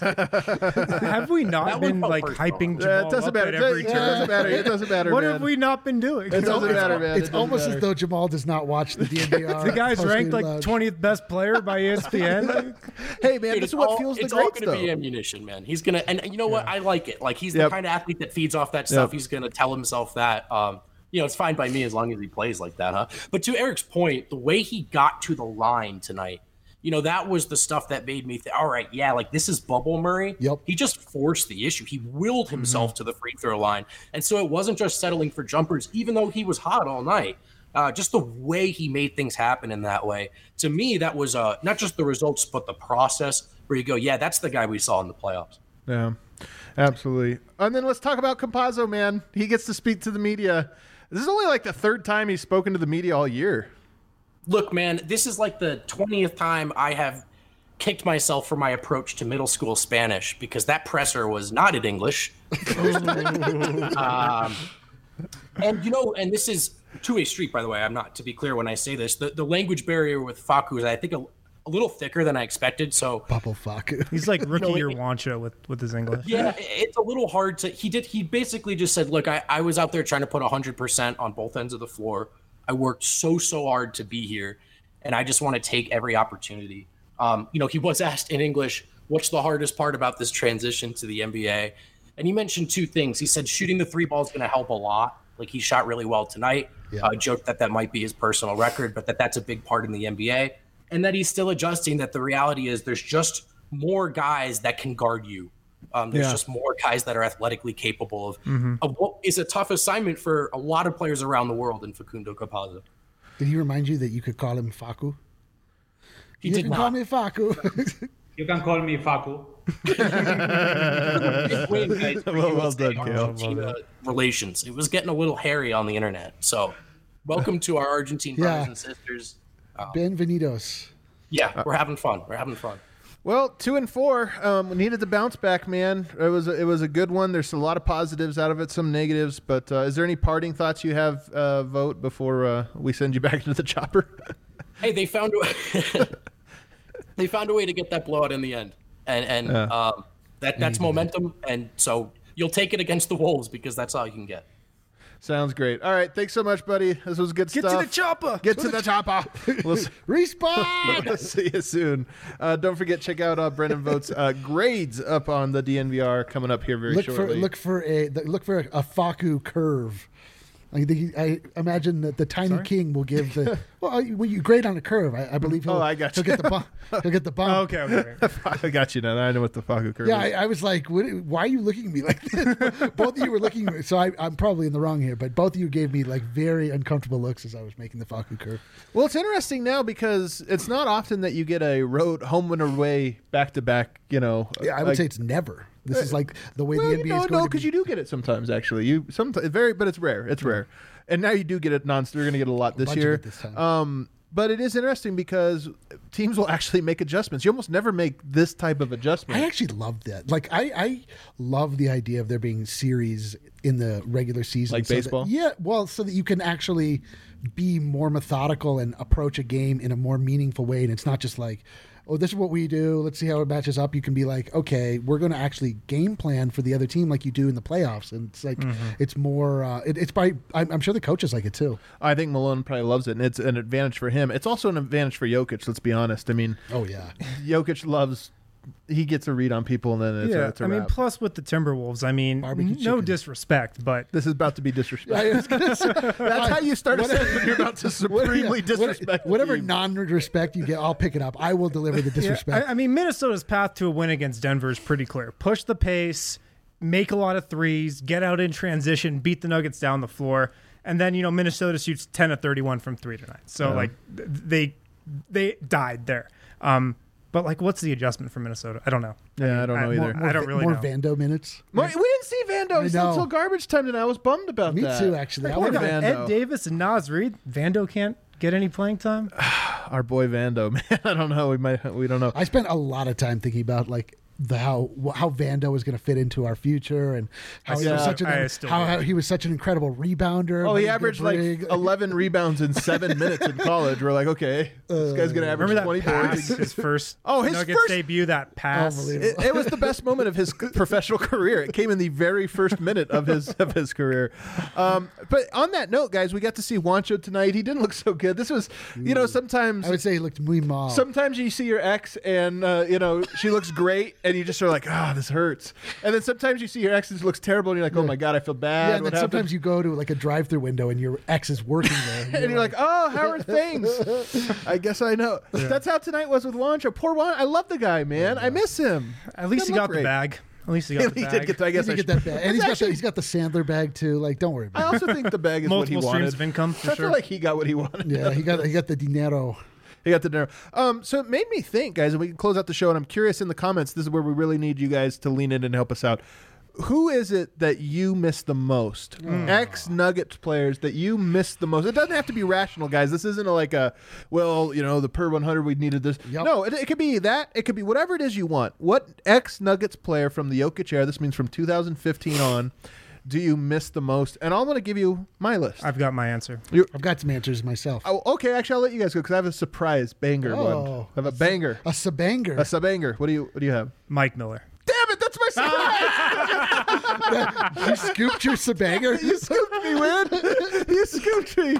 Have we not been hyping Jamal it doesn't up matter. at every turn? It doesn't matter. What man. have we not been doing? It doesn't matter, man. It's almost as though Jamal does not watch the DNVR. The guy's ranked like 20th best player by ESPN. Hey, man, this is what fuels the greats, though. It's all going to be ammunition, man. He's going to, and you know what? I like it. Like, he's the kind of athlete that feeds off that stuff. He's going to tell himself that. It's fine by me as long as he plays like that, huh? But to Eric's point, the way he got to the line tonight, that was the stuff that made me think, all right, yeah, like this is Bubble Murray. Yep. He just forced the issue. He willed himself to the free throw line. And so it wasn't just settling for jumpers, even though he was hot all night. Just the way he made things happen in that way. To me, that was not just the results, but the process where you go, yeah, that's the guy we saw in the playoffs. Yeah, absolutely. And then let's talk about Campazzo, man. He gets to speak to the media. This is only like the third time he's spoken to the media all year. Look, man, this is like the 20th time I have kicked myself for my approach to middle school Spanish because that presser was not in English. And this is two-way street, by the way. I'm not, to be clear when I say this. The language barrier with Facu is, I think, a little thicker than I expected. So Bubble Facu. He's like rookie year Wancho with his English. Yeah, it's a little hard to. He basically just said, look, I was out there trying to put 100% on both ends of the floor. I worked so hard to be here, and I just want to take every opportunity. He was asked in English, what's the hardest part about this transition to the NBA? And he mentioned two things. He said shooting the three ball is going to help a lot. Like, he shot really well tonight. Yeah. Joked that might be his personal record, but that's a big part in the NBA. And that he's still adjusting, that the reality is there's just more guys that can guard you. There's just more guys that are athletically capable of what is a tough assignment for a lot of players around the world in Facundo Campazzo. Did he remind you that you could call him Facu? He did not. Call me Facu. You can call me Facu. Well done, Argentina relations. It was getting a little hairy on the internet. So, welcome to our Argentine brothers and sisters. Bienvenidos. Yeah, we're having fun. Well, 2-4. We needed to bounce back, man. It was a good one. There's a lot of positives out of it, some negatives. But is there any parting thoughts you have, Vote, before we send you back into the chopper? Hey, they found a way to get that blowout in the end, and that's momentum. And so you'll take it against the Wolves because that's all you can get. Sounds great. All right, thanks so much, buddy. This was good stuff. Get to the chopper. Get to the chopper. Respawn. We'll see you soon. Don't forget, check out Brendan Vote's grades up on the DNVR coming up here very shortly. Look for a Facu curve. I imagine that the tiny king will give the when you grade on a curve. I believe he'll get the bump. He'll get the bump. Okay. I got you now. I know what the Facu curve is. I was like, why are you looking at me like this? Both of you were looking at me. So I'm probably in the wrong here, but both of you gave me like very uncomfortable looks as I was making the Facu curve. Well, it's interesting now because it's not often that you get a road home and away back to back. Yeah, I would say it's never. This is like the way the NBA is going. No, because you do get it sometimes. Actually, but it's rare. It's rare, and now you do get it non. You're going to get a lot this year. This time. But it is interesting because teams will actually make adjustments. You almost never make this type of adjustment. I actually love that. Like I love the idea of there being series in the regular season, like baseball. So that you can actually be more methodical and approach a game in a more meaningful way. And it's not just like, oh, this is what we do. Let's see how it matches up. You can be like, okay, we're going to actually game plan for the other team like you do in the playoffs. And it's like, it's more, it's probably, I'm sure the coaches like it too. I think Malone probably loves it, and it's an advantage for him. It's also an advantage for Jokic, let's be honest. I mean, Oh, yeah. Jokic loves, he gets a read on people, and then it's a I mean, wrap. plus with the Timberwolves, I mean, Barbecue no chicken. disrespect, but This is about to be disrespectful. That's how you start a sentence when you're about to supremely disrespect. Whatever the team. non-respect you get, I'll pick it up. I will deliver the disrespect. I mean, Minnesota's path to a win against Denver is pretty clear. Push the pace, make a lot of threes, get out in transition, beat the Nuggets down the floor, and then Minnesota shoots 10 of 31 from 3 tonight. So like they died there. But like, what's the adjustment for Minnesota? I don't know. Yeah, I don't know either. I don't really more know. Vando minutes. We didn't see Vando know. until garbage time tonight. I was bummed about Me that. too, actually. I Poor would've- Vando. Ed Davis and Naz Reid. Vando can't get any playing time. Our boy Vando, man. I don't know. We don't know. I spent a lot of time thinking about like how Vando was going to fit into our future and how he was such an incredible rebounder. Oh, what he a good averaged like brig. 11 rebounds in 7 minutes in college. We're like, okay, this guy's going to average Remember 20 that pass? points. His first His Nuggets first- debut, that pass. Unbelievable. It was the best moment of his professional career. It came in the very first minute of his career. But on that note, guys, we got to see Juancho tonight. He didn't look so good. This was, sometimes I would say he looked muy mal. sometimes you see your ex and she looks great and you just are like, this hurts. And then sometimes you see your ex and it looks terrible and you're like, oh my god, I feel bad. Yeah, and What then happened? sometimes you go to like a drive-through window and your ex is working there. And you're like, oh, how are things? I guess I know. That's how tonight was with Juancho. Poor Juan. I love the guy, man. I miss him. At least he Doesn't got look the great. bag. At least he got the He bag. did get. I he guess I didn't should. get that bag, and It's he's got the Sandler bag too. Like, don't worry I about it. also think the bag is what he Multiple wanted. streams of income for I sure. feel like he got what he wanted. Yeah, he got the dinero. He got the dinner. So it made me think, guys, and we can close out the show. And I'm curious in the comments. This is where we really need you guys to lean in and help us out. Who is it that you miss the most? Ex-Nuggets players that you miss the most. It doesn't have to be rational, guys. This isn't the per 100 we needed this. Yep. No, it could be that. It could be whatever it is you want. What ex-Nuggets player from the Jokic era, this means from 2015 on, do you miss the most? And I'm going to give you my list. I've got my answer. I've got some answers myself. Oh, okay, actually, I'll let you guys go because I have a surprise banger one. Oh, I have a banger. A sabanger. A sub-banger. What do you have? Mike Miller. Damn it, that's my surprise! You scooped your sabanger. You scooped me, man. You scooped me.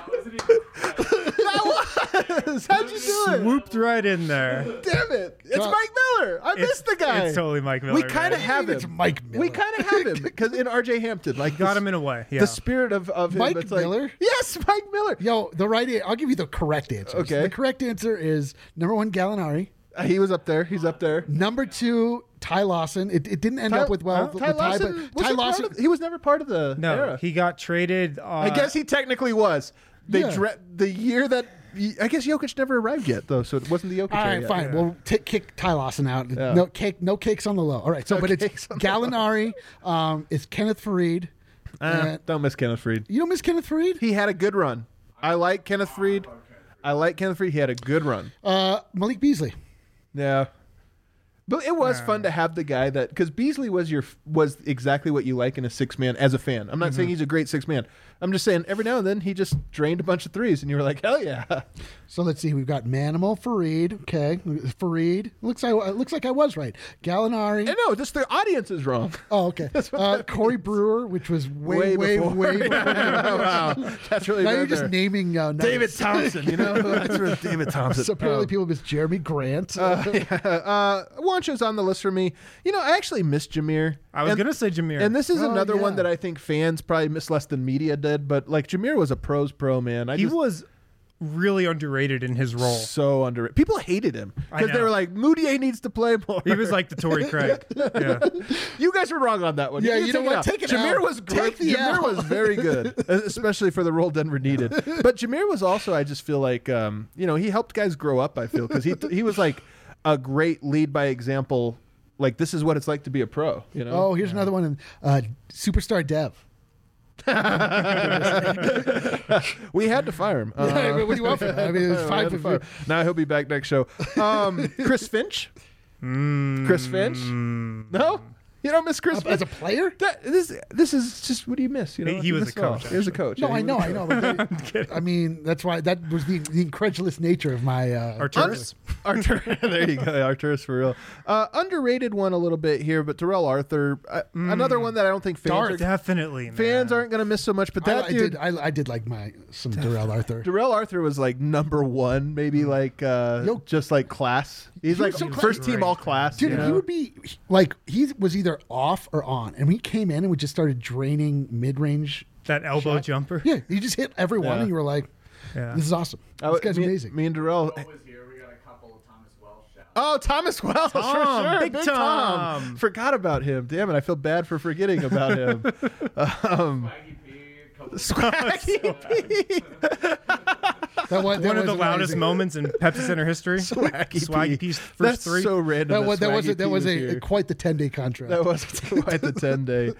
That was. How'd you do it? Swooped right in there. Damn it. It's Mike Miller. I missed the guy. It's totally Mike Miller. We kind of man. have him. It's Mike Miller. We kind of have him because in RJ Hampton, like Got the- him in a way. Yeah. The spirit of him. Mike it's like- Miller? Yes, Mike Miller. Yo, I'll give you the correct answer. Okay. The correct answer is number 1, Gallinari. He was up there. He's up there. Number 2, Ty Lawson. It didn't end up with Ty Lawson. but Ty Lawson. He was never part of the no, era. he got traded. I guess he technically was. Yeah. The year that I guess Jokic never arrived yet, though, so it wasn't the Jokic All era right, yet. fine. We'll kick Ty Lawson out. Yeah. No cakes on the low. All right, so No but it's cakes on the low. Gallinari. It's Kenneth Fareed. Don't miss Kenneth Faried. You don't miss Kenneth Fareed? He had a good run. I like Kenneth Faried. He had a good run. Malik Beasley. Yeah. But it was fun to have the guy that, because Beasley was exactly what you like in a 6-man as a fan. I'm not saying he's a great 6-man. I'm just saying every now and then he just drained a bunch of threes, and you were like, hell yeah. So let's see. We've got Manimal, Fareed. Okay, Fareed. Looks like I was right. Gallinari. And no, just the audience is wrong. Oh, okay. Corey Brewer, which was way before. before. Wow. That's really Now bad you're just there. naming David nuggets. Thompson, That's where David Thompson. So apparently people miss Jeremy Grant. Juancho's on the list for me. I actually miss Jameer. I was gonna say Jameer. And this is another one yeah. that I think fans probably miss less than media did. But like Jameer was a pro's pro, man. he was really underrated in his role. so underrated. People hated him because they know. were like, Moutier needs to play more. He was like the Torrey Craig. Yeah. You guys were wrong on that one. Yeah, can you know take what? out. Take it Jameer out. was great. Take the Jameer L. was very good, especially for the role Denver needed. But Jameer was also, I just feel like, he helped guys grow up. I feel because he was like a great lead by example. Like, this is what it's like to be a pro. Oh, here's another one. Superstar Dev. We had to fire him. What do you want from him? I mean, it was We fine had to for fire him. Now he'll be back next show. Chris Finch. Chris Finch. No. You don't miss Chris As a player? This is just, what do you miss? You know, He was miss a it all. coach, He was a coach. No, Yeah, I he know. was- But I mean, that's why that was the incredulous nature of my Arturus. Artur, there you go, Arturus for real. Underrated one a little bit here, but Darrell Arthur, another one that I don't think fans Definitely, man. fans aren't going to miss so much. But that dude, I did like some Darrell Arthur. Darrell Arthur was like number one, maybe like just like class. He's he like was so first team great. all class. Dude, you know? he would be like, he was either off or on, and we came in and we just started draining mid-range. That elbow jumper. Yeah, he just hit everyone, Yeah. and you were like, Yeah. "This is awesome. This guy's amazing." Me and Darrell. was here. We got a couple of Thomas Welsh shouts. Oh, Thomas Wells, for sure. Big Big Tom. Tom. Forgot about him. Damn it, I feel bad for forgetting about him. Swaggy P, a couple of Swaggy P. One of the loudest moments in Pepsi Center history. Swaggy P. Piece first That's three. so random. That was here. quite the 10-day contract. That was quite the 10-day.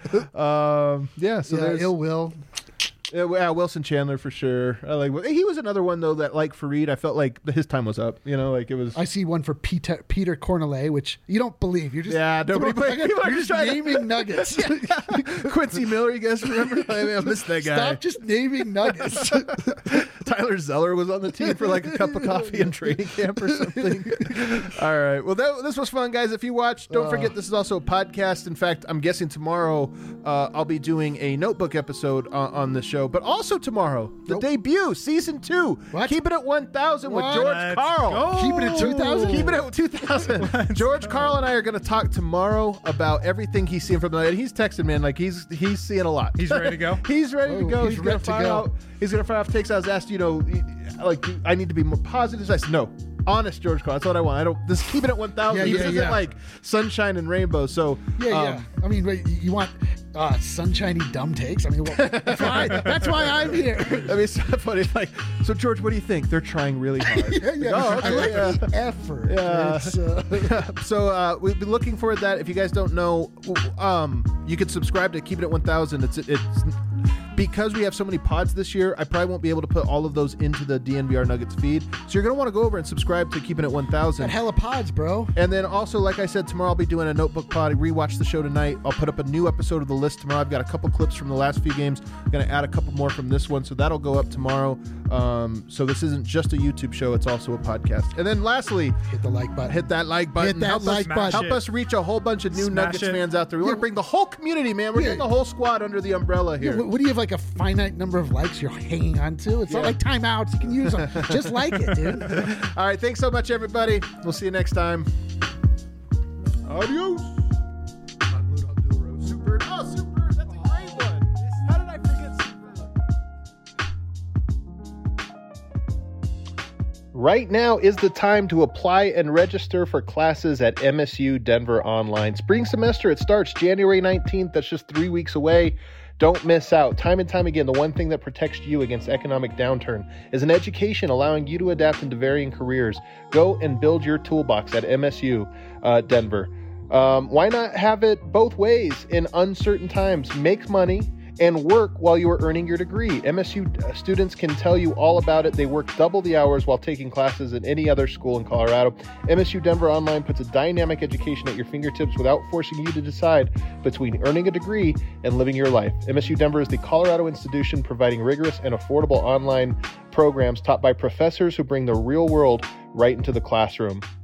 Yeah, so there's Ill Will. yeah, Wilson Chandler for sure. I like. He was another one though that, like Fareed, I felt like his time was up. You know, like it was. I see one for Peter Cornelet, which you don't believe. You're just Nobody. People are you're just just trying to- naming nuggets. Quincy Miller, you guys remember? I missed that guy. Stop just naming nuggets. Tyler Zeller was on the team for like a cup of coffee in training camp or something. All right. Well, this was fun, guys. If you watched, don't forget this is also a podcast. In fact, I'm guessing tomorrow I'll be doing a notebook episode on the show. But also tomorrow, the debut, season 2. What? Keep it at 1,000 with What? George Let's Carl. go. Keep it at 2,000? Keep it at 2,000. George Carl and I are going to talk tomorrow about everything he's seeing from the night. And he's texting, man, like he's seeing a lot. He's ready to go? He's ready to Oh, go. he's He's going ready to to fire go. out. He's going to fire off takes. I was asked, like, I need to be more positive. I said, no. Honest George Carl. That's what I want. I don't just keep it at 1,000. Yeah, He yeah, isn't yeah. like sunshine and rainbow. So Yeah. I mean, wait, you want sunshiny dumb takes? I mean, well, that's why I'm here. I mean, it's so funny. Like, so George, what do you think? They're trying really hard. Yeah. Oh, okay, I like yeah. the effort. Yeah. It's, So we've been looking for that. If you guys don't know, you can subscribe to Keep It at 1,000. It's because we have so many pods this year. I probably won't be able to put all of those into the DNVR Nuggets feed. So you're gonna want to go over and subscribe to Keep It at 1,000. got hella pods, bro. And then also, like I said, tomorrow I'll be doing a notebook pod. Rewatch the show tonight. I'll put up a new episode of the list tomorrow. I've got a couple clips from the last few games. I'm going to add a couple more from this one. So that'll go up tomorrow. So this isn't just a YouTube show. It's also a podcast. And then lastly, Hit the like button. hit that like button. Hit that help like us, button. Help us reach a whole bunch of new Smash Nuggets it. fans out there. We want to bring the whole community, man. We're Yeah. getting the whole squad under the umbrella here. What do you have, like a finite number of likes you're hanging on to? It's not like timeouts. You can use them. Just like it, dude. All right. Thanks so much, everybody. We'll see you next time. Adios. Super. Oh, super. That's a great one. How did I forget super? Right now is the time to apply and register for classes at MSU Denver Online. Spring semester, it starts January 19th. That's just 3 weeks away. Don't miss out. Time and time again, the one thing that protects you against economic downturn is an education allowing you to adapt into varying careers. Go and build your toolbox at MSU Denver. Why not have it both ways in uncertain times? Make money and work while you are earning your degree. MSU students can tell you all about it. They work double the hours while taking classes at any other school in Colorado. MSU Denver Online puts a dynamic education at your fingertips without forcing you to decide between earning a degree and living your life. MSU Denver is the Colorado institution providing rigorous and affordable online programs taught by professors who bring the real world right into the classroom.